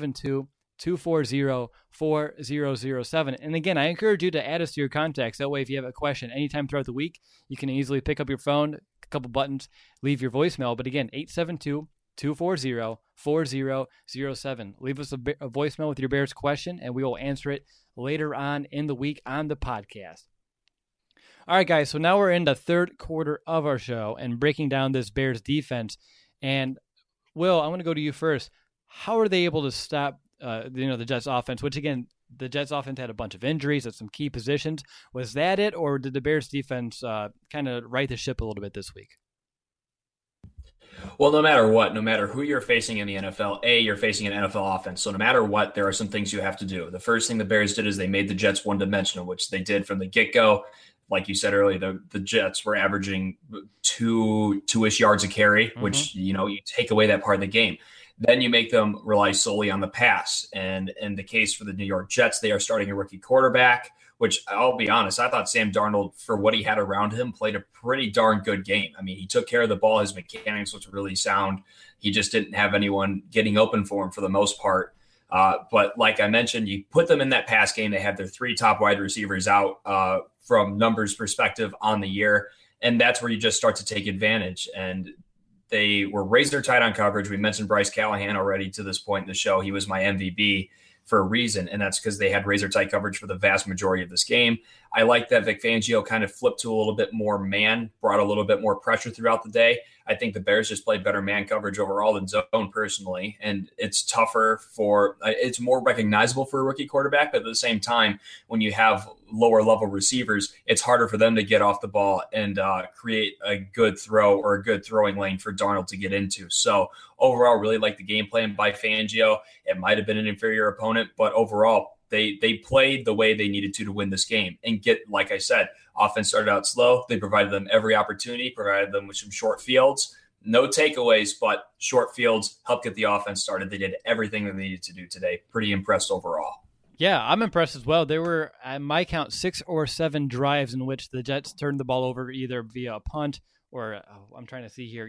872-240-4007. And again, I encourage you to add us to your contacts. That way, if you have a question anytime throughout the week, you can easily pick up your phone, a couple buttons, leave your voicemail. But again, 240-4007. Leave us a voicemail with your Bears question, and we will answer it later on in the week on the podcast. All right, guys, so now we're in the third quarter of our show and breaking down this Bears defense. And, Will, I'm going to go to you first. How are they able to stop the Jets offense, which, again, the Jets offense had a bunch of injuries at some key positions. Was that it, or did the Bears defense kind of right the ship a little bit this week? Well, no matter what, no matter who you're facing in the NFL, you're facing an NFL offense. So no matter what, there are some things you have to do. The first thing the Bears did is they made the Jets one-dimensional, which they did from the get-go. Like you said earlier, the Jets were averaging two-ish yards a carry, which, you take away that part of the game. Then you make them rely solely on the pass. And in the case for the New York Jets, they are starting a rookie quarterback, which I'll be honest, I thought Sam Darnold, for what he had around him, played a pretty darn good game. I mean, he took care of the ball. His mechanics was really sound. He just didn't have anyone getting open for him for the most part. But like I mentioned, you put them in that pass game. They have their 3 top wide receivers out from numbers perspective on the year. And that's where you just start to take advantage. And they were razor tight on coverage. We mentioned Bryce Callahan already to this point in the show. He was my MVP for a reason, and that's because they had razor tight coverage for the vast majority of this game. I like that Vic Fangio kind of flipped to a little bit more man, brought a little bit more pressure throughout the day. I think the Bears just played better man coverage overall than zone personally, and it's it's more recognizable for a rookie quarterback, but at the same time, when you have lower level receivers, it's harder for them to get off the ball and create a good throw or a good throwing lane for Darnold to get into. So overall, really like the game plan by Fangio. It might have been an inferior opponent, but overall, they played the way they needed to win this game and like I said, offense started out slow. They provided them every opportunity, provided them with some short fields, no takeaways, but short fields helped get the offense started. They did everything they needed to do today. Pretty impressed overall. Yeah, I'm impressed as well. There were, at my count, 6 or 7 drives in which the Jets turned the ball over either via a punt or I'm trying to see here.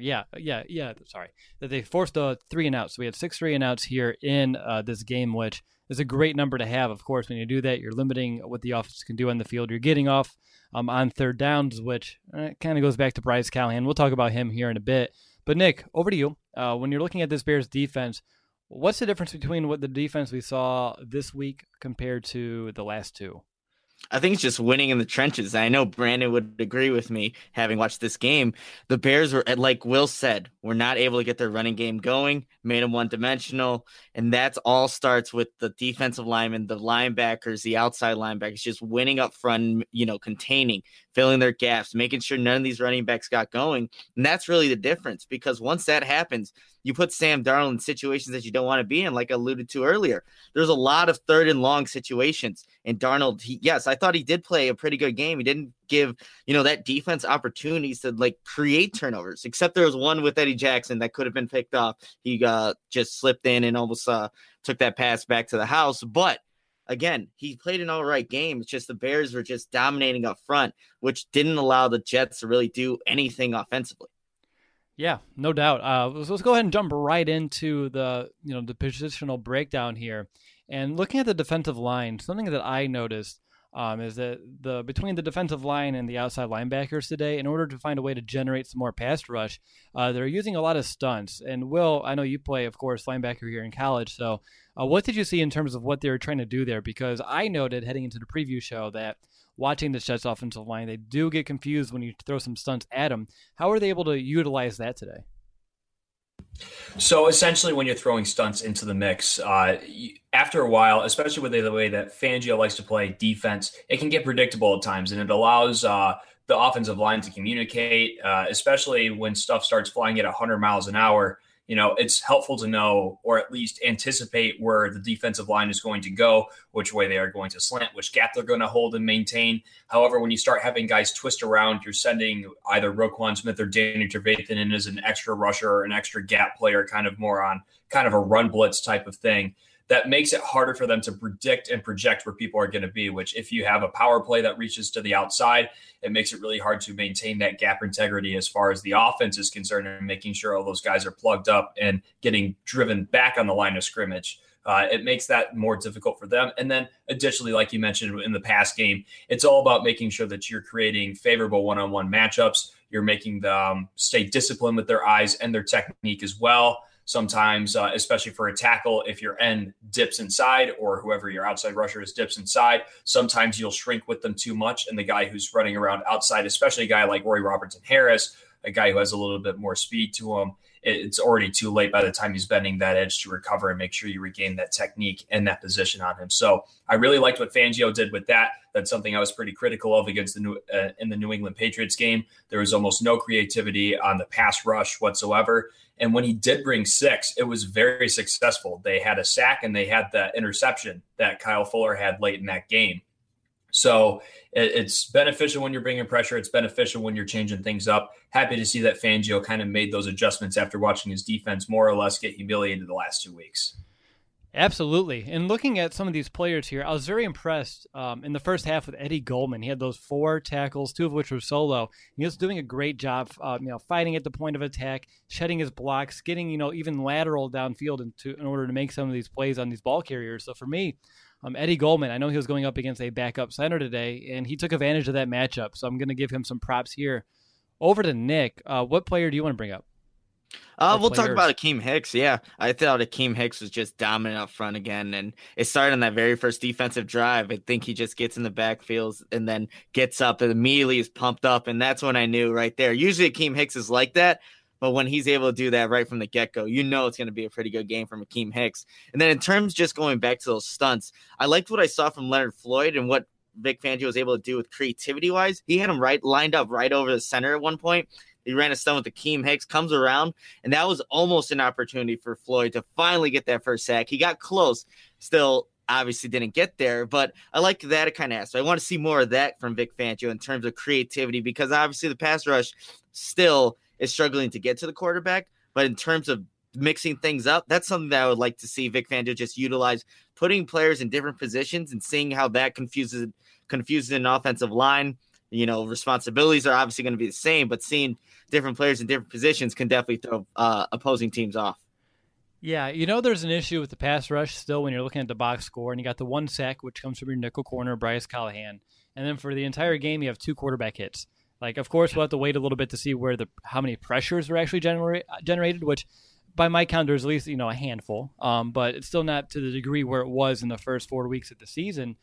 Sorry. That they forced a 3-and-out. So we had 6 3-and-outs here in this game, which is a great number to have. Of course, when you do that, you're limiting what the offense can do on the field. You're getting off on third downs, which kind of goes back to Bryce Callahan. We'll talk about him here in a bit. But Nick, over to you. When you're looking at this Bears defense, what's the difference between what the defense we saw this week compared to the last 2? I think it's just winning in the trenches. I know Brandon would agree with me, having watched this game. The Bears were, like Will said, were not able to get their running game going, made them one-dimensional, and that all starts with the defensive linemen, the linebackers, the outside linebackers, just winning up front, containing, filling their gaps, making sure none of these running backs got going. And that's really the difference, because once that happens, you put Sam Darnold in situations that you don't want to be in, like I alluded to earlier. There's a lot of 3rd and long situations. And Darnold, I thought he did play a pretty good game. He didn't give, that defense opportunities to create turnovers, except there was one with Eddie Jackson that could have been picked off. He just slipped in and almost took that pass back to the house. But again, he played an all right game. It's just the Bears were just dominating up front, which didn't allow the Jets to really do anything offensively. Yeah, no doubt. Let's go ahead and jump right into the positional breakdown here. And looking at the defensive line, something that I noticed is that between the defensive line and the outside linebackers today, in order to find a way to generate some more pass rush, they're using a lot of stunts. And Will, I know you play, of course, linebacker here in college. So what did you see in terms of what they were trying to do there? Because I noted heading into the preview show that watching the Jets offensive line, they do get confused when you throw some stunts at them. How are they able to utilize that today? So essentially, when you're throwing stunts into the mix, after a while, especially with the way that Fangio likes to play defense, it can get predictable at times, and it allows the offensive line to communicate, especially when stuff starts flying at 100 miles an hour. It's helpful to know, or at least anticipate, where the defensive line is going to go, which way they are going to slant, which gap they're going to hold and maintain. However, when you start having guys twist around, you're sending either Roquan Smith or Danny Trevathan in as an extra rusher or an extra gap player, kind of more on kind of a run blitz type of thing. That makes it harder for them to predict and project where people are going to be, which if you have a power play that reaches to the outside, it makes it really hard to maintain that gap integrity as far as the offense is concerned and making sure all those guys are plugged up and getting driven back on the line of scrimmage. It makes that more difficult for them. And then additionally, like you mentioned in the past game, it's all about making sure that you're creating favorable one-on-one matchups. You're making them stay disciplined with their eyes and their technique as well. Sometimes, especially for a tackle, if your end dips inside or whoever your outside rusher is dips inside, sometimes you'll shrink with them too much. And the guy who's running around outside, especially a guy like Roy Robertson-Harris, a guy who has a little bit more speed to him, it's already too late by the time he's bending that edge to recover and make sure you regain that technique and that position on him. So I really liked what Fangio did with that. That's something I was pretty critical of against in the New England Patriots game. There was almost no creativity on the pass rush whatsoever. And when he did bring 6, it was very successful. They had a sack and they had the interception that Kyle Fuller had late in that game. So it's beneficial when you're bringing pressure. It's beneficial when you're changing things up. Happy to see that Fangio kind of made those adjustments after watching his defense more or less get humiliated the last 2 weeks. Absolutely. And looking at some of these players here, I was very impressed in the first half with Eddie Goldman. He had those 4 tackles, 2 of which were solo. He was doing a great job, fighting at the point of attack, shedding his blocks, getting, even lateral downfield in order to make some of these plays on these ball carriers. So for me, Eddie Goldman, I know he was going up against a backup center today, and he took advantage of that matchup. So I'm going to give him some props here. Over to Nick. What player do you want to bring up? We'll talk about Akeem Hicks. Yeah, I thought Akeem Hicks was just dominant up front again, and it started on that very first defensive drive. I think he just gets in the backfield and then gets up and immediately is pumped up, and that's when I knew right there. Usually Akeem Hicks is like that, but when he's able to do that right from the get-go, it's going to be a pretty good game from Akeem Hicks. And then in terms just going back to those stunts, I liked what I saw from Leonard Floyd and what Vic Fangio was able to do with creativity-wise. He had him lined up right over the center at one point. He ran a stunt with Akeem Hicks, comes around, and that was almost an opportunity for Floyd to finally get that first sack. He got close, still obviously didn't get there, but I like that kind of aspect. I want to see more of that from Vic Fangio in terms of creativity, because obviously the pass rush still is struggling to get to the quarterback, but in terms of mixing things up, that's something that I would like to see Vic Fangio just utilize, putting players in different positions and seeing how that confuses an offensive line. Responsibilities are obviously going to be the same, but seeing different players in different positions can definitely throw opposing teams off. Yeah, there's an issue with the pass rush still when you're looking at the box score, and you got the 1 sack, which comes from your nickel corner, Bryce Callahan. And then for the entire game, you have 2 quarterback hits. Of course, we'll have to wait a little bit to see how many pressures were actually generated, which by my count, there's at least, a handful. But it's still not to the degree where it was in the first 4 weeks of the season.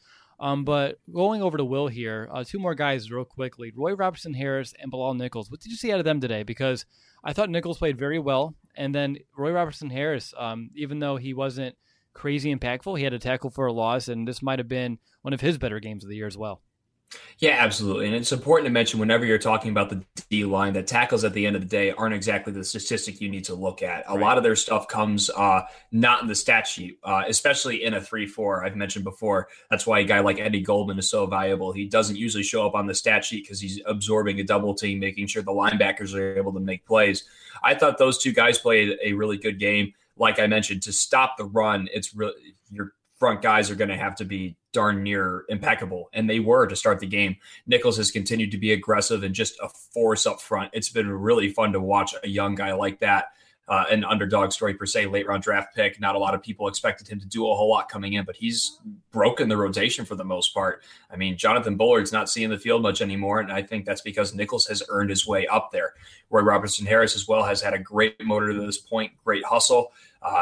But going over to Will here, 2 more guys real quickly. Roy Robertson-Harris and Bilal Nichols. What did you see out of them today? Because I thought Nichols played very well. And then Roy Robertson-Harris, even though he wasn't crazy impactful, he had a tackle for a loss. And this might have been one of his better games of the year as well. Yeah, absolutely. And it's important to mention whenever you're talking about the D line that tackles at the end of the day aren't exactly the statistic you need to look at. A lot of their stuff comes not in the stat sheet, especially in a 3-4. I've mentioned before, that's why a guy like Eddie Goldman is so valuable. He doesn't usually show up on the stat sheet because he's absorbing a double team, making sure the linebackers are able to make plays. I thought those 2 guys played a really good game. Like I mentioned, to stop the run, it's really your front guys are going to have to be darn near impeccable, and they were to start the game. Nichols has continued to be aggressive and just a force up front. It's been really fun to watch a young guy like that, an underdog story per se, late round draft pick. Not a lot of people expected him to do a whole lot coming in, but he's broken the rotation for the most part. I mean, Jonathan Bullard's not seeing the field much anymore, and I think that's because Nichols has earned his way up there. Roy Robertson-Harris as well has had a great motor to this point, great hustle.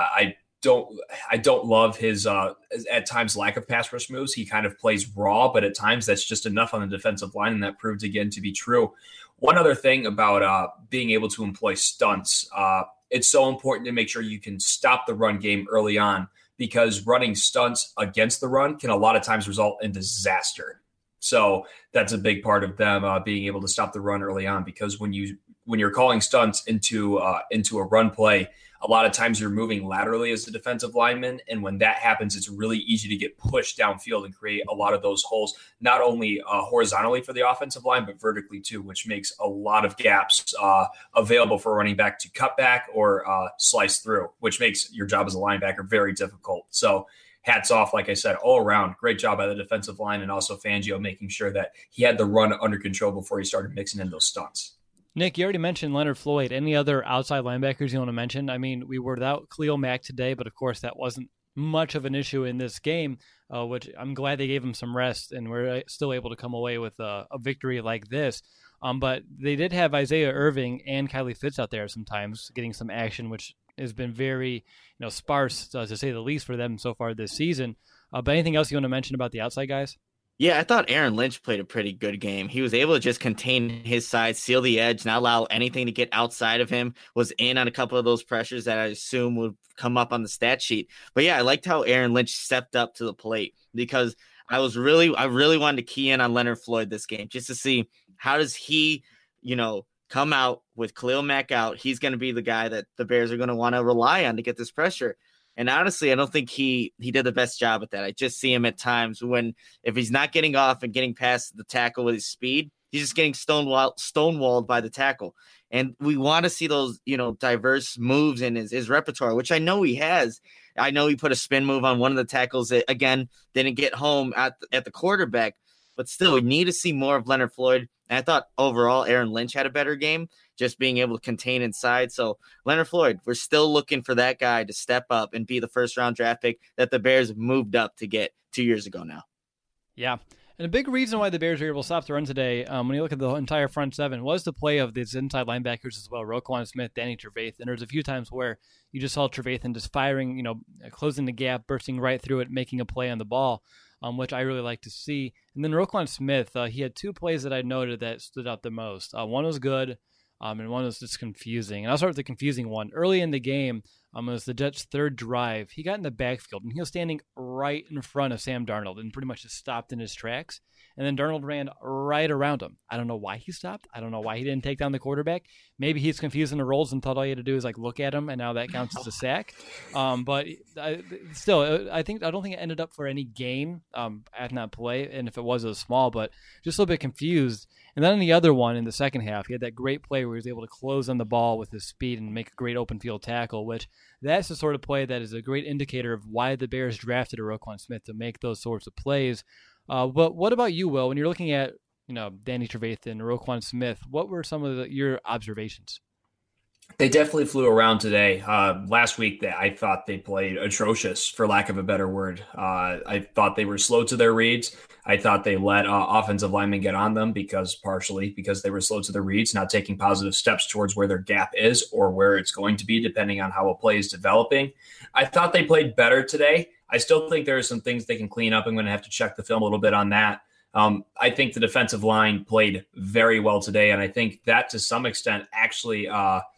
I don't love his at times lack of pass rush moves. He kind of plays raw, but at times that's just enough on the defensive line, and that proved again to be true. One other thing about being able to employ stunts, it's so important to make sure you can stop the run game early on, because running stunts against the run can a lot of times result in disaster. So that's a big part of them being able to stop the run early on, because when you're calling stunts into a run play, a lot of times you're moving laterally as a defensive lineman. And when that happens, it's really easy to get pushed downfield and create a lot of those holes, not only horizontally for the offensive line, but vertically too, which makes a lot of gaps available for a running back to cut back or slice through, which makes your job as a linebacker very difficult. So hats off, like I said, all around. Great job by the defensive line, and also Fangio making sure that he had the run under control before he started mixing in those stunts. Nick, you already mentioned Leonard Floyd. Any other outside linebackers you want to mention? I mean, we were without Khalil Mack today, but of course that wasn't much of an issue in this game, which I'm glad they gave him some rest, and we're still able to come away with a victory like this. But they did have Isaiah Irving and Kylie Fitz out there sometimes getting some action, which has been very, sparse, to say the least, for them so far this season. But anything else you want to mention about the outside guys? Yeah, I thought Aaron Lynch played a pretty good game. He was able to just contain his side, seal the edge, not allow anything to get outside of him, was in on a couple of those pressures that I assume would come up on the stat sheet. But yeah, I liked how Aaron Lynch stepped up to the plate because I really wanted to key in on Leonard Floyd this game just to see how does he, come out with Khalil Mack out. He's going to be the guy that the Bears are going to want to rely on to get this pressure. And honestly, I don't think he did the best job at that. I just see him at times if he's not getting off and getting past the tackle with his speed, he's just getting stonewalled by the tackle. And we want to see those, diverse moves in his repertoire, which I know he has. I know he put a spin move on one of the tackles that, again, didn't get home at the quarterback. But still, we need to see more of Leonard Floyd. And I thought overall Aaron Lynch had a better game, just being able to contain inside. So Leonard Floyd, we're still looking for that guy to step up and be the first-round draft pick that the Bears moved up to get 2 years ago now. Yeah. And a big reason why the Bears were able to stop the run today, when you look at the entire front seven, was the play of these inside linebackers as well, Roquan Smith, Danny Trevathan. And there's a few times where you just saw Trevathan just firing, closing the gap, bursting right through it, making a play on the ball, which I really like to see. And then Roquan Smith, he had two plays that I noted that stood out the most. One was good, and one was just confusing. And I'll start with the confusing one. Early in the game, it was the Jets' third drive. He got in the backfield, and he was standing right in front of Sam Darnold and pretty much just stopped in his tracks. And then Darnold ran right around him. I don't know why he stopped. I don't know why he didn't take down the quarterback. Maybe he's confusing the roles and thought all he had to do is look at him, and now that counts as a sack. But still, I don't think it ended up for any gain at that play. And if it was small, but just a little bit confused. And then in the other one, in the second half, he had that great play where he was able to close on the ball with his speed and make a great open field tackle, which that's the sort of play that is a great indicator of why the Bears drafted a Roquan Smith, to make those sorts of plays. But what about you, Will? When you're looking at, Danny Trevathan, Roquan Smith, what were some of your observations? They definitely flew around today. Last week, I thought they played atrocious, for lack of a better word. I thought they were slow to their reads. I thought they let offensive linemen get on them partially because they were slow to their reads, not taking positive steps towards where their gap is or where it's going to be, depending on how a play is developing. I thought they played better today. I still think there are some things they can clean up. I'm going to have to check the film a little bit on that. I think the defensive line played very well today, and I think that to some extent actually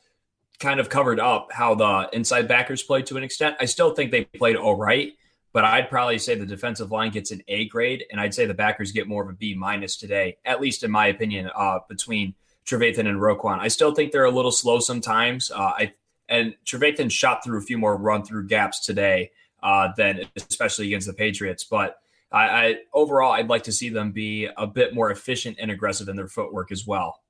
kind of covered up how the inside backers played to an extent. I still think they played all right, but I'd probably say the defensive line gets an A grade, and I'd say the backers get more of a B- today, at least in my opinion, between Trevathan and Roquan. I still think they're a little slow sometimes, and Trevathan shot through a few more run-through gaps today than especially against the Patriots. But overall, I'd like to see them be a bit more efficient and aggressive in their footwork as well.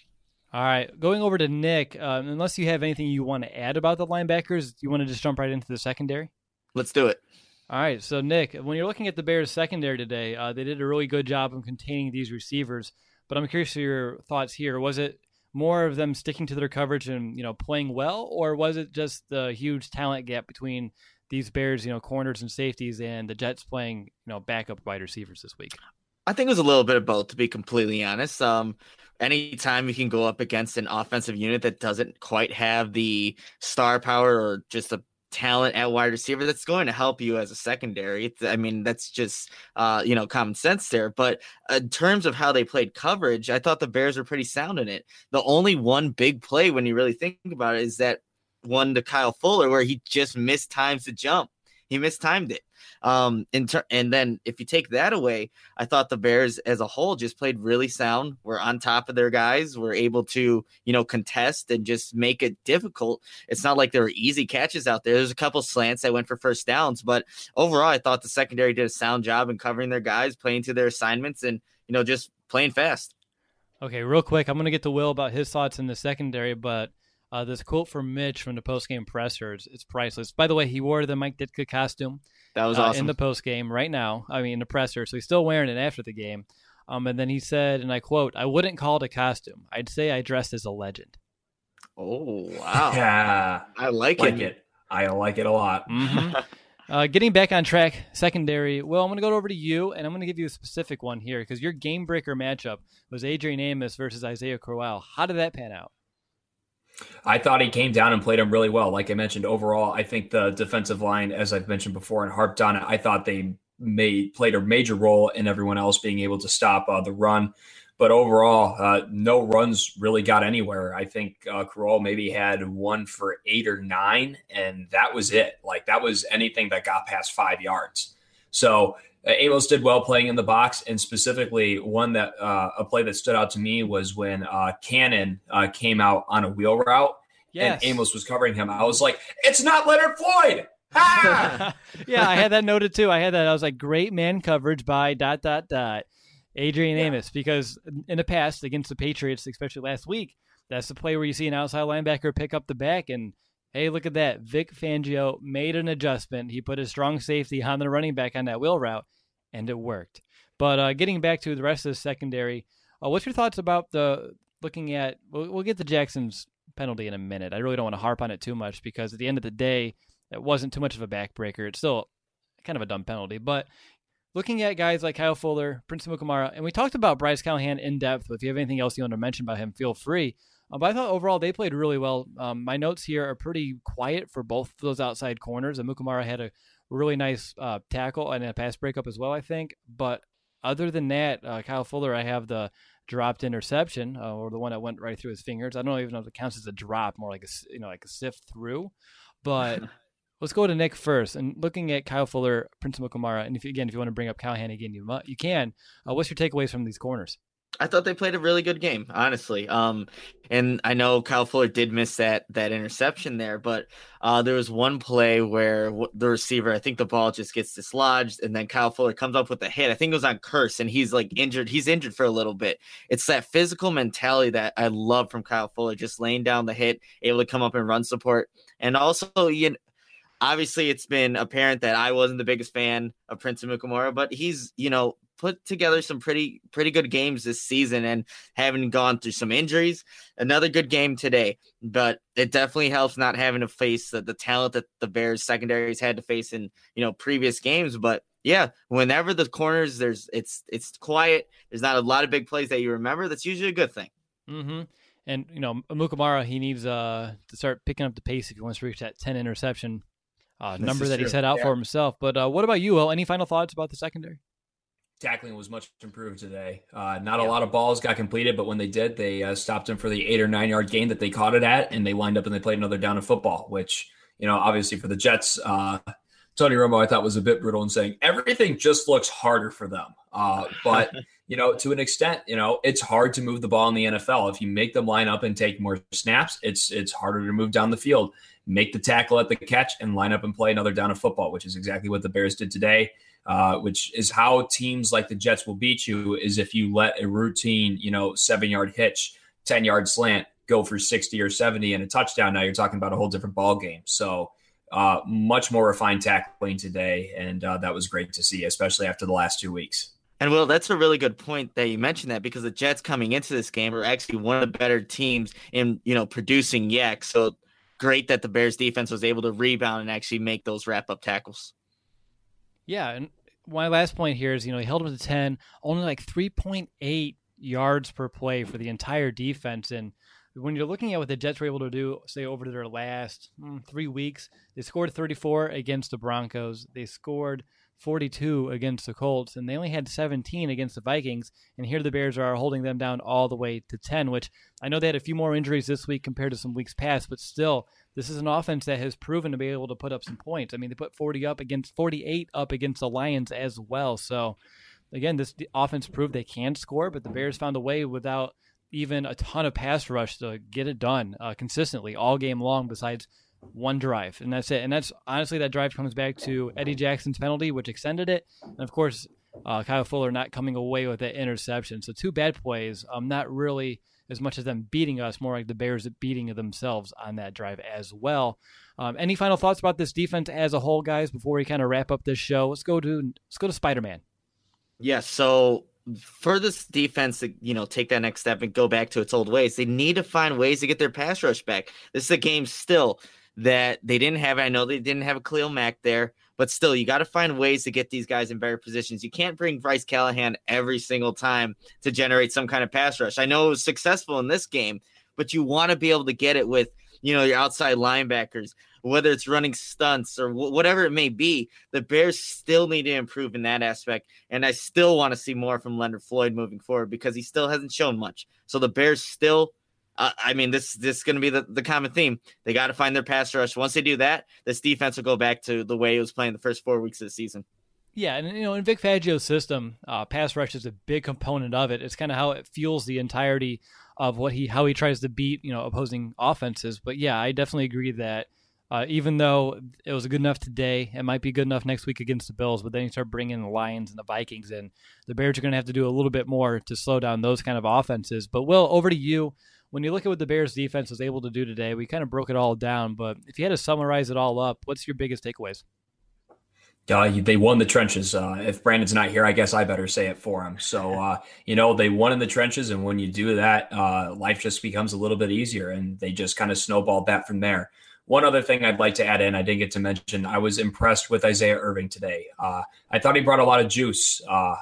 All right, going over to Nick, unless you have anything you want to add about the linebackers, you want to just jump right into the secondary? Let's do it. All right, so Nick, when you're looking at the Bears secondary today, they did a really good job of containing these receivers, but I'm curious to your thoughts here. Was it more of them sticking to their coverage and, playing well, or was it just the huge talent gap between these Bears, corners and safeties, and the Jets playing, backup wide receivers this week? I think it was a little bit of both, to be completely honest. Anytime you can go up against an offensive unit that doesn't quite have the star power or just the talent at wide receiver, that's going to help you as a secondary. That's just, common sense there. But in terms of how they played coverage, I thought the Bears were pretty sound in it. The only one big play, when you really think about it, is that one to Kyle Fuller where he just missed times to jump. He mistimed it. And then if you take that away, I thought the Bears as a whole just played really sound. We're on top of their guys. We're able to, contest and just make it difficult. It's not like there were easy catches out there. There's a couple slants that went for first downs, but overall, I thought the secondary did a sound job in covering their guys, playing to their assignments, and, just playing fast. Okay, real quick, I'm going to get to Will about his thoughts in the secondary, but this quote from Mitch from the postgame presser, it's priceless. By the way, he wore the Mike Ditka costume. That was awesome. In the postgame right now. In the presser. So he's still wearing it after the game. And then he said, and I quote, "I wouldn't call it a costume. I'd say I dressed as a legend." Oh, wow. Yeah. I like it. I like it a lot. Mm-hmm. Getting back on track, secondary. Well, I'm going to go over to you, and I'm going to give you a specific one here because your game breaker matchup was Adrian Amos versus Isaiah Crowell. How did that pan out? I thought he came down and played him really well. Like I mentioned, overall, I think the defensive line, as I've mentioned before and harped on it, I thought they played a major role in everyone else being able to stop the run. But overall, no runs really got anywhere. I think Carroll maybe had 1 for 8 or 9, and that was it. Like that was anything that got past 5 yards. So Amos did well playing in the box, and specifically a play that stood out to me was when Cannon came out on a wheel route, and Amos was covering him. I was like, it's not Leonard Floyd. Yeah, I had that noted too. I was like, great man coverage by ... Adrian Amos, because in the past against the Patriots, especially last week, that's the play where you see an outside linebacker pick up the back, and hey, look at that. Vic Fangio made an adjustment. He put his strong safety on the running back on that wheel route, and it worked. But getting back to the rest of the secondary, what's your thoughts about looking at – we'll get to Jackson's penalty in a minute. I really don't want to harp on it too much because at the end of the day, it wasn't too much of a backbreaker. It's still kind of a dumb penalty. But looking at guys like Kyle Fuller, Prince Amukamara, and we talked about Bryce Callahan in depth, but if you have anything else you want to mention about him, feel free. But I thought overall they played really well. My notes here are pretty quiet for both of those outside corners. Amukamara had a really nice tackle and a pass breakup as well, I think. But other than that, Kyle Fuller, I have the dropped interception or the one that went right through his fingers. I don't even know if it counts as a drop, more like a sift through. But let's go to Nick first. And looking at Kyle Fuller, Prince Amukamara, and if you want to bring up Callahan again, you can. What's your takeaways from these corners? I thought they played a really good game, honestly. And I know Kyle Fuller did miss that interception there, but there was one play where the receiver, I think the ball just gets dislodged, and then Kyle Fuller comes up with a hit. I think it was on Curse, and he's like injured. He's injured for a little bit. It's that physical mentality that I love from Kyle Fuller, just laying down the hit, able to come up and run support. And also, obviously it's been apparent that I wasn't the biggest fan of Prince Amukamara, but he's, put together some pretty good games this season and having gone through some injuries. Another good game today, but it definitely helps not having to face the talent that the Bears secondaries had to face in, previous games. But yeah, whenever the corners, it's quiet. There's not a lot of big plays that you remember. That's usually a good thing. Mm-hmm. And, Amukamara, he needs to start picking up the pace if he wants to reach that 10 interception number that he set out for himself. But what about you, Will? Any final thoughts about the secondary? Tackling was much improved today. Not a lot of balls got completed, but when they did, they stopped him for the 8 or 9 yard gain that they caught it at, and they lined up and they played another down of football, which, obviously for the Jets, Tony Romo, I thought was a bit brutal in saying everything just looks harder for them. But, to an extent, it's hard to move the ball in the NFL. If you make them line up and take more snaps, it's harder to move down the field, make the tackle at the catch, and line up and play another down of football, which is exactly what the Bears did today. Which is how teams like the Jets will beat you, is if you let a routine, 7-yard hitch, 10-yard slant go for 60 or 70 and a touchdown. Now you're talking about a whole different ball game. So much more refined tackling today, and that was great to see, especially after the last 2 weeks. And Will, that's a really good point that you mentioned that, because the Jets coming into this game are actually one of the better teams in, producing YAC. So great that the Bears defense was able to rebound and actually make those wrap-up tackles. Yeah, and my last point here is, he held him to 10, only like 3.8 yards per play for the entire defense. And when you're looking at what the Jets were able to do, say, over their last 3 weeks, they scored 34 against the Broncos. They scored 42 against the Colts, and they only had 17 against the Vikings. And here the Bears are holding them down all the way to 10, which I know they had a few more injuries this week compared to some weeks past, but still, this is an offense that has proven to be able to put up some points. I mean, they put 48 up against the Lions as well. So again, this offense proved they can score, but the Bears found a way without even a ton of pass rush to get it done consistently all game long, besides one drive, and that's it. And that's honestly, that drive comes back to Eddie Jackson's penalty, which extended it, and of course Kyle Fuller not coming away with that interception. So 2 bad plays, not really as much as them beating us, more like the Bears beating themselves on that drive as well. Any final thoughts about this defense as a whole, guys, before we kind of wrap up this show? Let's go to Spider-Man. Yeah, so for this defense to, take that next step and go back to its old ways, they need to find ways to get their pass rush back. This is a game still that they didn't have. I know they didn't have a Khalil Mack there, but still, you got to find ways to get these guys in better positions. You can't bring Bryce Callahan every single time to generate some kind of pass rush. I know it was successful in this game, but you want to be able to get it with, your outside linebackers, whether it's running stunts or whatever it may be. The Bears still need to improve in that aspect. And I still want to see more from Leonard Floyd moving forward because he still hasn't shown much. So the Bears still, this is going to be the common theme. They got to find their pass rush. Once they do that, this defense will go back to the way it was playing the first 4 weeks of the season. Yeah, and in Vic Fangio's system, pass rush is a big component of it. It's kind of how it fuels the entirety of how he tries to beat opposing offenses. But yeah, I definitely agree that even though it was good enough today, it might be good enough next week against the Bills. But then you start bringing the Lions and the Vikings in, the Bears are going to have to do a little bit more to slow down those kind of offenses. But Will, over to you. When you look at what the Bears defense was able to do today, we kind of broke it all down. But if you had to summarize it all up, what's your biggest takeaways? They won the trenches. If Brandon's not here, I guess I better say it for him. So, they won in the trenches. And when you do that, life just becomes a little bit easier. And they just kind of snowballed that from there. One other thing I'd like to add in, I didn't get to mention, I was impressed with Isaiah Irving today. I thought he brought a lot of juice.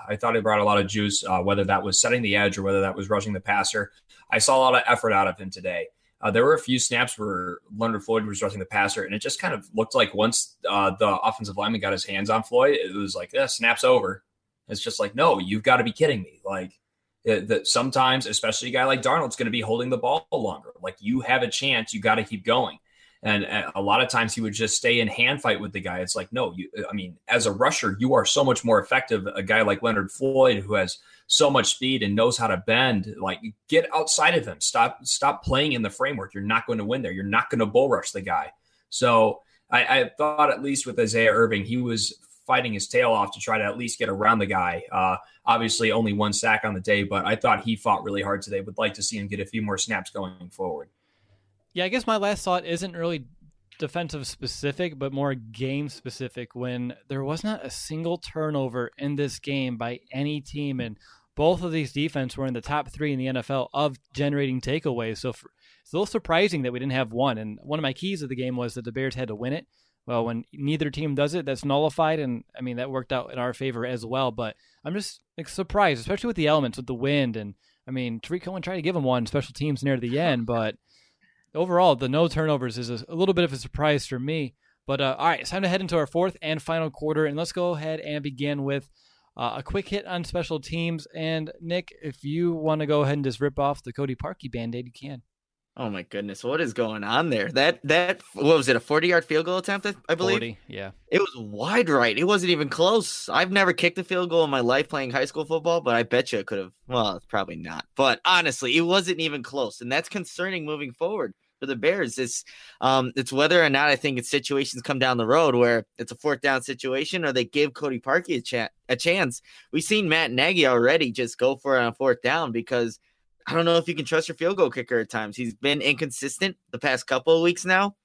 Whether that was setting the edge or whether that was rushing the passer. I saw a lot of effort out of him today. There were a few snaps where Leonard Floyd was rushing the passer, and it just kind of looked like once the offensive lineman got his hands on Floyd, it was like, snap's over. It's just like, no, you've got to be kidding me. Like, that sometimes, especially a guy like Darnold's going to be holding the ball longer. Like, you have a chance, you got to keep going. And a lot of times he would just stay in hand fight with the guy. It's like, no, as a rusher, you are so much more effective. A guy like Leonard Floyd, who has so much speed and knows how to bend, like, get outside of him. Stop playing in the framework. You're not going to win there. You're not going to bull rush the guy. So I thought, at least with Isaiah Irving, he was fighting his tail off to try to at least get around the guy. Obviously only 1 sack on the day, but I thought he fought really hard today. Would like to see him get a few more snaps going forward. Yeah, I guess my last thought isn't really defensive specific, but more game specific, when there was not a single turnover in this game by any team. And both of these defense were in the top 3 in the NFL of generating takeaways. So it's a little surprising that we didn't have one. And one of my keys of the game was that the Bears had to win it. Well, when neither team does it, that's nullified. And that worked out in our favor as well. But I'm just surprised, especially with the elements, with the wind. And Tariq Cohen tried to give him one, special teams near the end, but overall, the no turnovers is a little bit of a surprise for me. But all right, it's time to head into our fourth and final quarter, and let's go ahead and begin with a quick hit on special teams. And Nick, if you want to go ahead and just rip off the Cody Parkey Band-Aid, you can. Oh my goodness, what is going on there? That what was it, a 40-yard field goal attempt, I believe? 40, yeah. It was wide right. It wasn't even close. I've never kicked a field goal in my life playing high school football, but I bet you it could have. Well, it's probably not. But honestly, it wasn't even close, and that's concerning moving forward for the Bears. It's whether or not I think it's situations come down the road where it's a 4th down situation or they give Cody Parkey a chance. We've seen Matt Nagy already just go for it on 4th down because I don't know if you can trust your field goal kicker at times. He's been inconsistent the past couple of weeks now,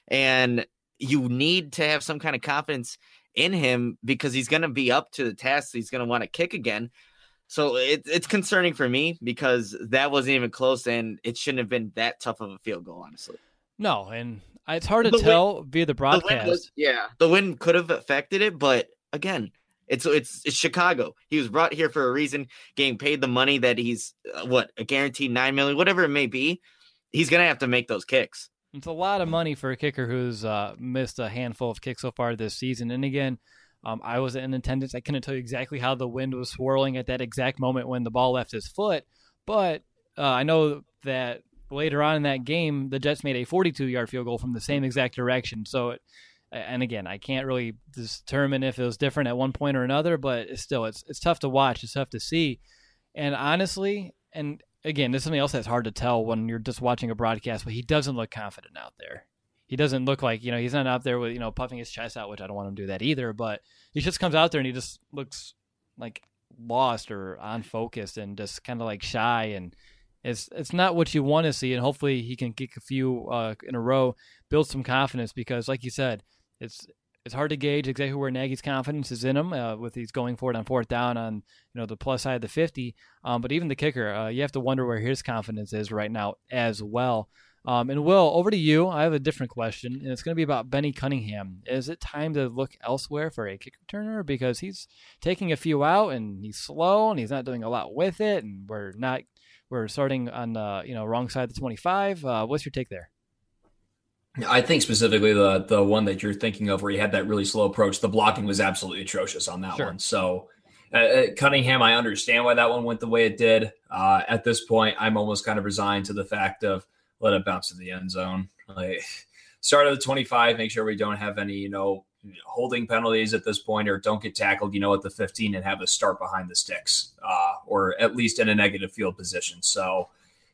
and you need to have some kind of confidence in him because he's going to be up to the task. He's going to want to kick again. So it's concerning for me because that wasn't even close, and it shouldn't have been that tough of a field goal, honestly. No, and it's hard to tell via the broadcast. The wind could have affected it, but again, it's Chicago. He was brought here for a reason, getting paid the money that he's a guaranteed $9 million, whatever it may be. He's gonna have to make those kicks. It's a lot of money for a kicker who's missed a handful of kicks so far this season. And again, I was in attendance. I couldn't tell you exactly how the wind was swirling at that exact moment when the ball left his foot, but I know that later on in that game, the Jets made a 42-yard field goal from the same exact direction. So, and again, I can't really determine if it was different at one point or another, but it's tough to watch. It's tough to see. And honestly, and again, this is something else that's hard to tell when you're just watching a broadcast, but he doesn't look confident out there. He doesn't look like, he's not out there with, puffing his chest out, which I don't want him to do that either, but he just comes out there and he just looks like lost or unfocused and just kind of like shy, and it's not what you want to see. And hopefully he can kick a few in a row, build some confidence, because like you said, it's hard to gauge exactly where Nagy's confidence is in him with he's going for it on 4th down on the plus side of the 50. But even the kicker, you have to wonder where his confidence is right now as well. And Will, over to you. I have a different question, and it's going to be about Benny Cunningham. Is it time to look elsewhere for a kick returner? Because he's taking a few out, and he's slow, and he's not doing a lot with it, and we're not we're starting on wrong side of the 25. What's your take there? I think specifically the one that you're thinking of where he had that really slow approach, the blocking was absolutely atrocious on that one. So Cunningham, I understand why that one went the way it did. At this point, I'm almost kind of resigned to the fact of let it bounce to the end zone. Like, start at the 25, make sure we don't have any, holding penalties at this point, or don't get tackled, at the 15 and have us start behind the sticks, or at least in a negative field position. So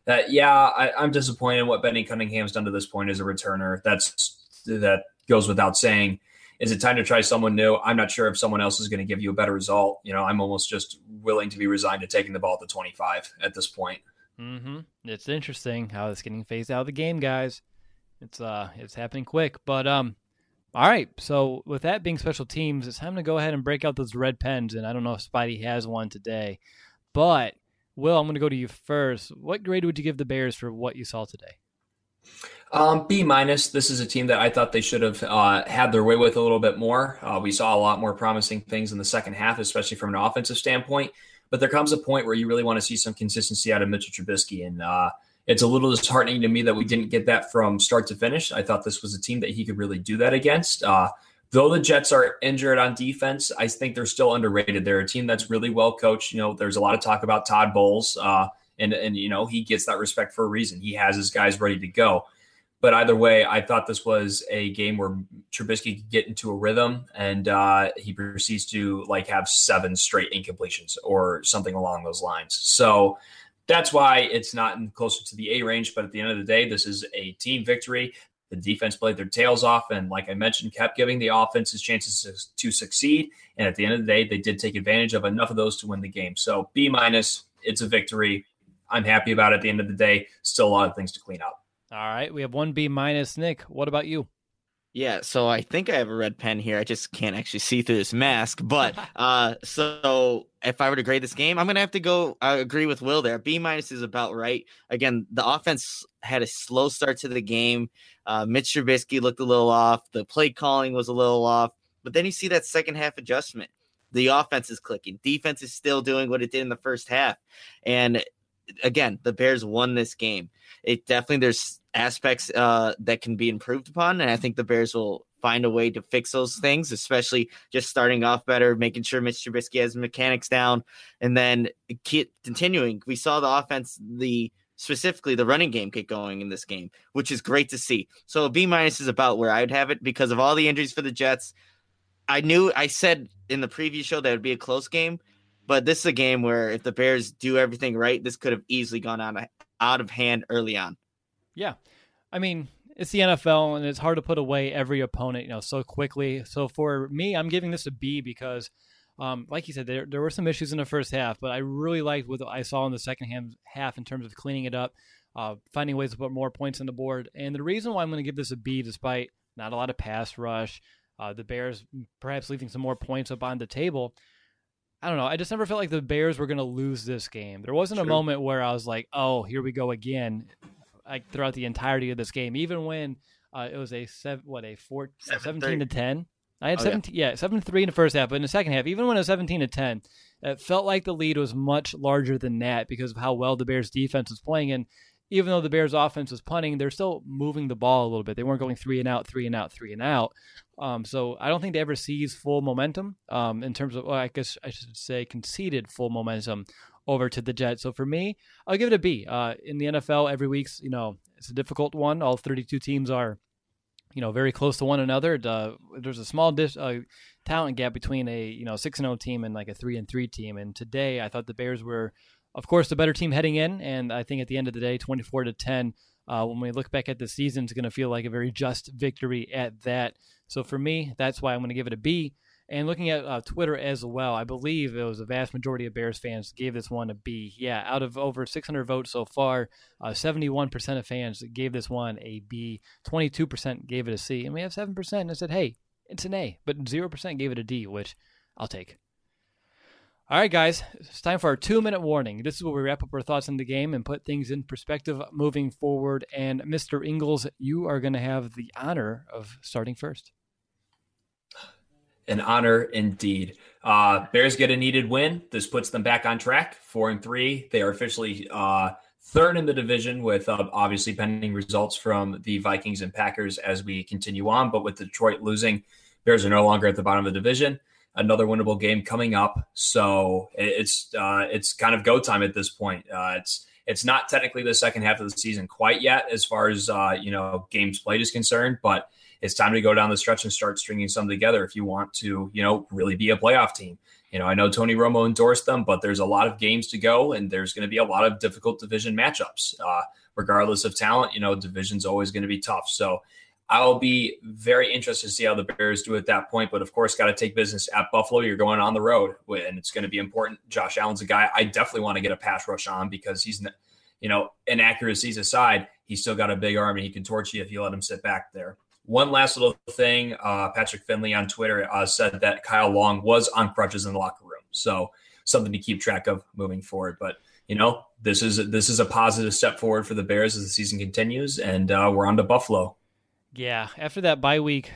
I'm disappointed in what Benny Cunningham's done to this point as a returner. That goes without saying. Is it time to try someone new? I'm not sure if someone else is going to give you a better result. I'm almost just willing to be resigned to taking the ball at the 25 at this point. Mm-hmm. It's interesting how it's getting phased out of the game, guys. It's happening quick. But all right. So with that being special teams, it's time to go ahead and break out those red pens. And I don't know if Spidey has one today, but Will, I'm going to go to you first. What grade would you give the Bears for what you saw today? B-. This is a team that I thought they should have had their way with a little bit more. We saw a lot more promising things in the second half, especially from an offensive standpoint. But there comes a point where you really want to see some consistency out of Mitchell Trubisky. And it's a little disheartening to me that we didn't get that from start to finish. I thought this was a team that he could really do that against. Though the Jets are injured on defense, I think they're still underrated. They're a team that's really well coached. There's a lot of talk about Todd Bowles, and he gets that respect for a reason. He has his guys ready to go. But either way, I thought this was a game where Trubisky could get into a rhythm, and he proceeds to have 7 straight incompletions or something along those lines. So that's why it's not closer to the A range. But at the end of the day, this is a team victory. The defense played their tails off, and like I mentioned, kept giving the offenses chances to succeed. And at the end of the day, they did take advantage of enough of those to win the game. So B-, it's a victory. I'm happy about it at the end of the day. Still a lot of things to clean up. All right, we have 1 B-. Nick, what about you? Yeah, so I think I have a red pen here. I just can't actually see through this mask. But so if I were to grade this game, I'm going to have to go agree with Will there. B- is about right. Again, the offense had a slow start to the game. Mitch Trubisky looked a little off. The play calling was a little off. But then you see that second half adjustment. The offense is clicking. Defense is still doing what it did in the first half. And again, the Bears won this game. There's aspects that can be improved upon, and I think the Bears will find a way to fix those things, especially just starting off better, making sure Mitch Trubisky has mechanics down, and then keep continuing. We saw the offense, specifically the running game, get going in this game, which is great to see. So a B- is about where I'd have it because of all the injuries for the Jets. I said in the preview show that it would be a close game, but this is a game where if the Bears do everything right, this could have easily gone out of hand early on. Yeah. I mean, it's the NFL, and it's hard to put away every opponent, so quickly. So for me, I'm giving this a B because, like you said, there were some issues in the first half, but I really liked what I saw in the second half in terms of cleaning it up, finding ways to put more points on the board. And the reason why I'm going to give this a B, despite not a lot of pass rush, the Bears perhaps leaving some more points up on the table, I don't know. I just never felt like the Bears were going to lose this game. There wasn't a moment where I was like, oh, here we go again, throughout the entirety of this game, even when it was a 17-10. I had 7-3 in the first half, but in the second half, even when it was 17-10, it felt like the lead was much larger than that because of how well the Bears defense was playing. And even though the Bears offense was punting, they're still moving the ball a little bit. They weren't going 3 and out. So I don't think they ever seized full momentum in terms of, I guess I should say conceded full momentum over to the Jets. So for me, I'll give it a B. In the NFL, every week's, it's a difficult one. All 32 teams are, very close to one another. There's a small talent gap between a 6-0 team and like a 3-3 team. And today, I thought the Bears were, of course, the better team heading in. And I think at the end of the day, 24-10. When we look back at the season, it's going to feel like a very just victory at that. So for me, that's why I'm going to give it a B. And looking at Twitter as well, I believe it was a vast majority of Bears fans gave this one a B. Yeah, out of over 600 votes so far, 71% of fans gave this one a B, 22% gave it a C, and we have 7% that said, hey, it's an A, but 0% gave it a D, which I'll take. All right, guys, it's time for our 2-minute warning. This is where we wrap up our thoughts on the game and put things in perspective moving forward. And Mr. Ingles, you are going to have the honor of starting first. An honor indeed. Bears get a needed win. This puts them back on track, 4-3. They are officially third in the division with obviously pending results from the Vikings and Packers as we continue on. But with Detroit losing, Bears are no longer at the bottom of the division. Another winnable game coming up. So it's kind of go time at this point. It's not technically the second half of the season quite yet as far as, games played is concerned, but it's time to go down the stretch and start stringing some together if you want to, really be a playoff team. I know Tony Romo endorsed them, but there's a lot of games to go, and there's going to be a lot of difficult division matchups. Regardless of talent, division's always going to be tough. So I'll be very interested to see how the Bears do at that point. But, of course, got to take business at Buffalo. You're going on the road, and it's going to be important. Josh Allen's a guy I definitely want to get a pass rush on because he's, inaccuracies aside, he's still got a big arm, and he can torch you if you let him sit back there. One last little thing, Patrick Finley on Twitter said that Kyle Long was on crutches in the locker room. So something to keep track of moving forward. But, this is a positive step forward for the Bears as the season continues, and we're on to Buffalo. Yeah, after that bye week,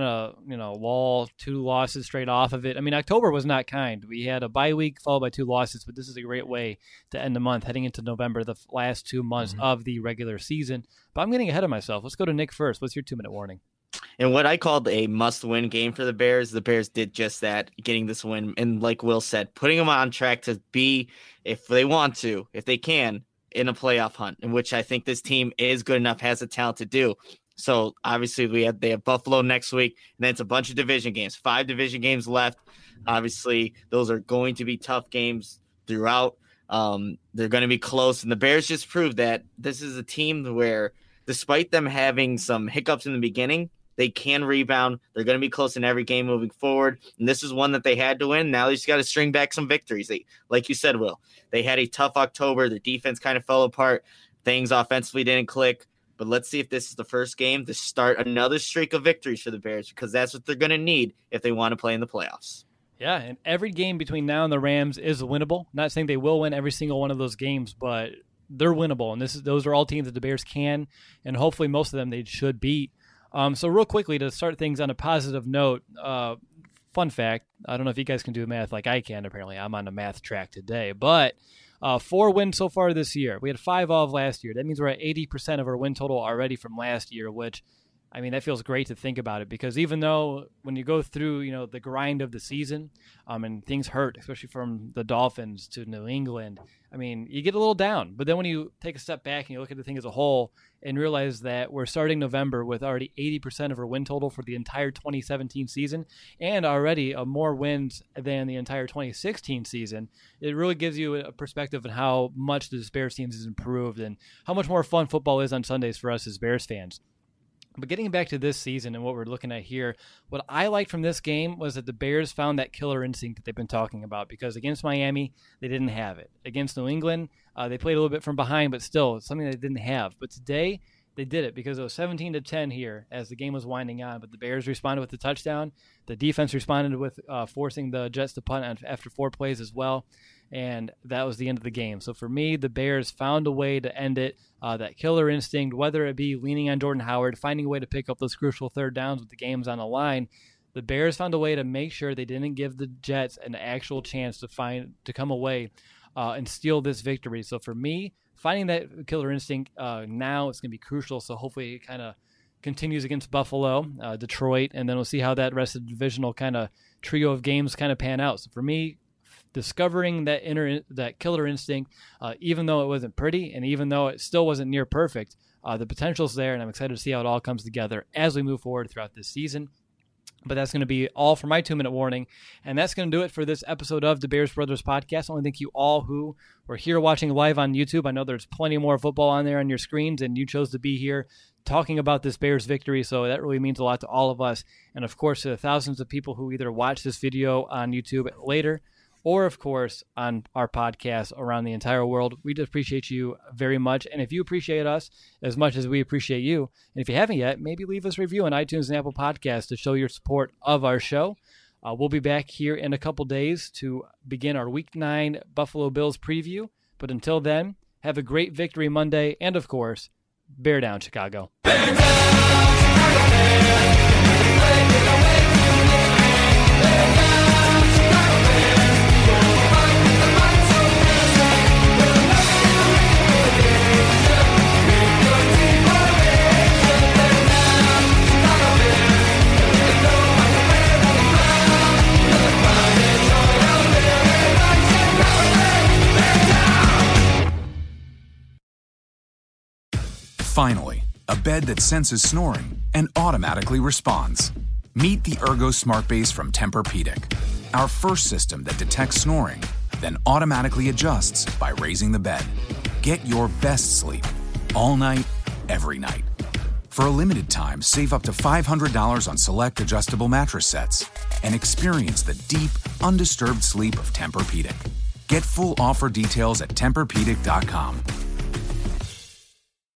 lull, 2 losses straight off of it. I mean, October was not kind. We had a bye week followed by 2 losses, but this is a great way to end the month, heading into November, the last 2 months of the regular season. But I'm getting ahead of myself. Let's go to Nick first. What's your 2-minute warning? And what I called a must-win game for the Bears did just that, getting this win. And like Will said, putting them on track to be, if they want to, if they can, in a playoff hunt, in which I think this team is good enough, has the talent to do. So obviously they have Buffalo next week, and then it's a bunch of division games, 5 division games left. Obviously, those are going to be tough games throughout. They're going to be close, and the Bears just proved that this is a team where, despite them having some hiccups in the beginning, they can rebound. They're going to be close in every game moving forward, and this is one that they had to win. Now they just got to string back some victories. Like you said, Will, they had a tough October. Their defense kind of fell apart. Things offensively didn't click. But let's see if this is the first game to start another streak of victories for the Bears, because that's what they're going to need if they want to play in the playoffs. Yeah, and every game between now and the Rams is winnable. Not saying they will win every single one of those games, but they're winnable. And those are all teams that the Bears can, and hopefully most of them they should beat. So real quickly, to start things on a positive note, fun fact, I don't know if you guys can do math like I can. Apparently, I'm on a math track today, but 4 wins so far this year. We had 5 of last year. That means we're at 80% of our win total already from last year, which, I mean, that feels great to think about it, because even though when you go through, the grind of the season, and things hurt, especially from the Dolphins to New England, I mean, you get a little down. But then when you take a step back and you look at the thing as a whole and realize that we're starting November with already 80% of our win total for the entire 2017 season, and already more wins than the entire 2016 season, it really gives you a perspective on how much the Bears team has improved and how much more fun football is on Sundays for us as Bears fans. But getting back to this season and what we're looking at here, what I liked from this game was that the Bears found that killer instinct that they've been talking about, because against Miami, they didn't have it. Against New England, they played a little bit from behind, but still, it's something they didn't have. But today, they did it because it was 17-10 here as the game was winding on, but the Bears responded with the touchdown. The defense responded with forcing the Jets to punt after 4 plays as well, and that was the end of the game. So for me, the Bears found a way to end it, that killer instinct, whether it be leaning on Jordan Howard, finding a way to pick up those crucial third downs with the games on the line. The Bears found a way to make sure they didn't give the Jets an actual chance to come away and steal this victory. So for me, finding that killer instinct now, it's going to be crucial. So hopefully it kind of continues against Buffalo, Detroit, and then we'll see how that rest of the divisional kind of trio of games kind of pan out. So for me, discovering that killer instinct, even though it wasn't pretty and even though it still wasn't near perfect, the potential's there, and I'm excited to see how it all comes together as we move forward throughout this season. But that's going to be all for my 2-minute warning. And that's going to do it for this episode of the Bears Brothers Podcast. I want to thank you all who were here watching live on YouTube. I know there's plenty more football on there on your screens, and you chose to be here talking about this Bears victory. So that really means a lot to all of us. And, of course, to the thousands of people who either watch this video on YouTube later or, of course, on our podcast around the entire world. We just appreciate you very much. And if you appreciate us as much as we appreciate you, and if you haven't yet, maybe leave us a review on iTunes and Apple Podcasts to show your support of our show. We'll be back here in a couple days to begin our Week 9 Buffalo Bills preview. But until then, have a great Victory Monday. And, of course, bear down, Chicago. Bear down, Chicago Bears. Bear down, Chicago Bears. Finally, a bed that senses snoring and automatically responds. Meet the Ergo Smart Base from Tempur-Pedic, our first system that detects snoring, then automatically adjusts by raising the bed. Get your best sleep all night, every night. For a limited time, save up to $500 on select adjustable mattress sets and experience the deep, undisturbed sleep of Tempur-Pedic. Get full offer details at TempurPedic.com.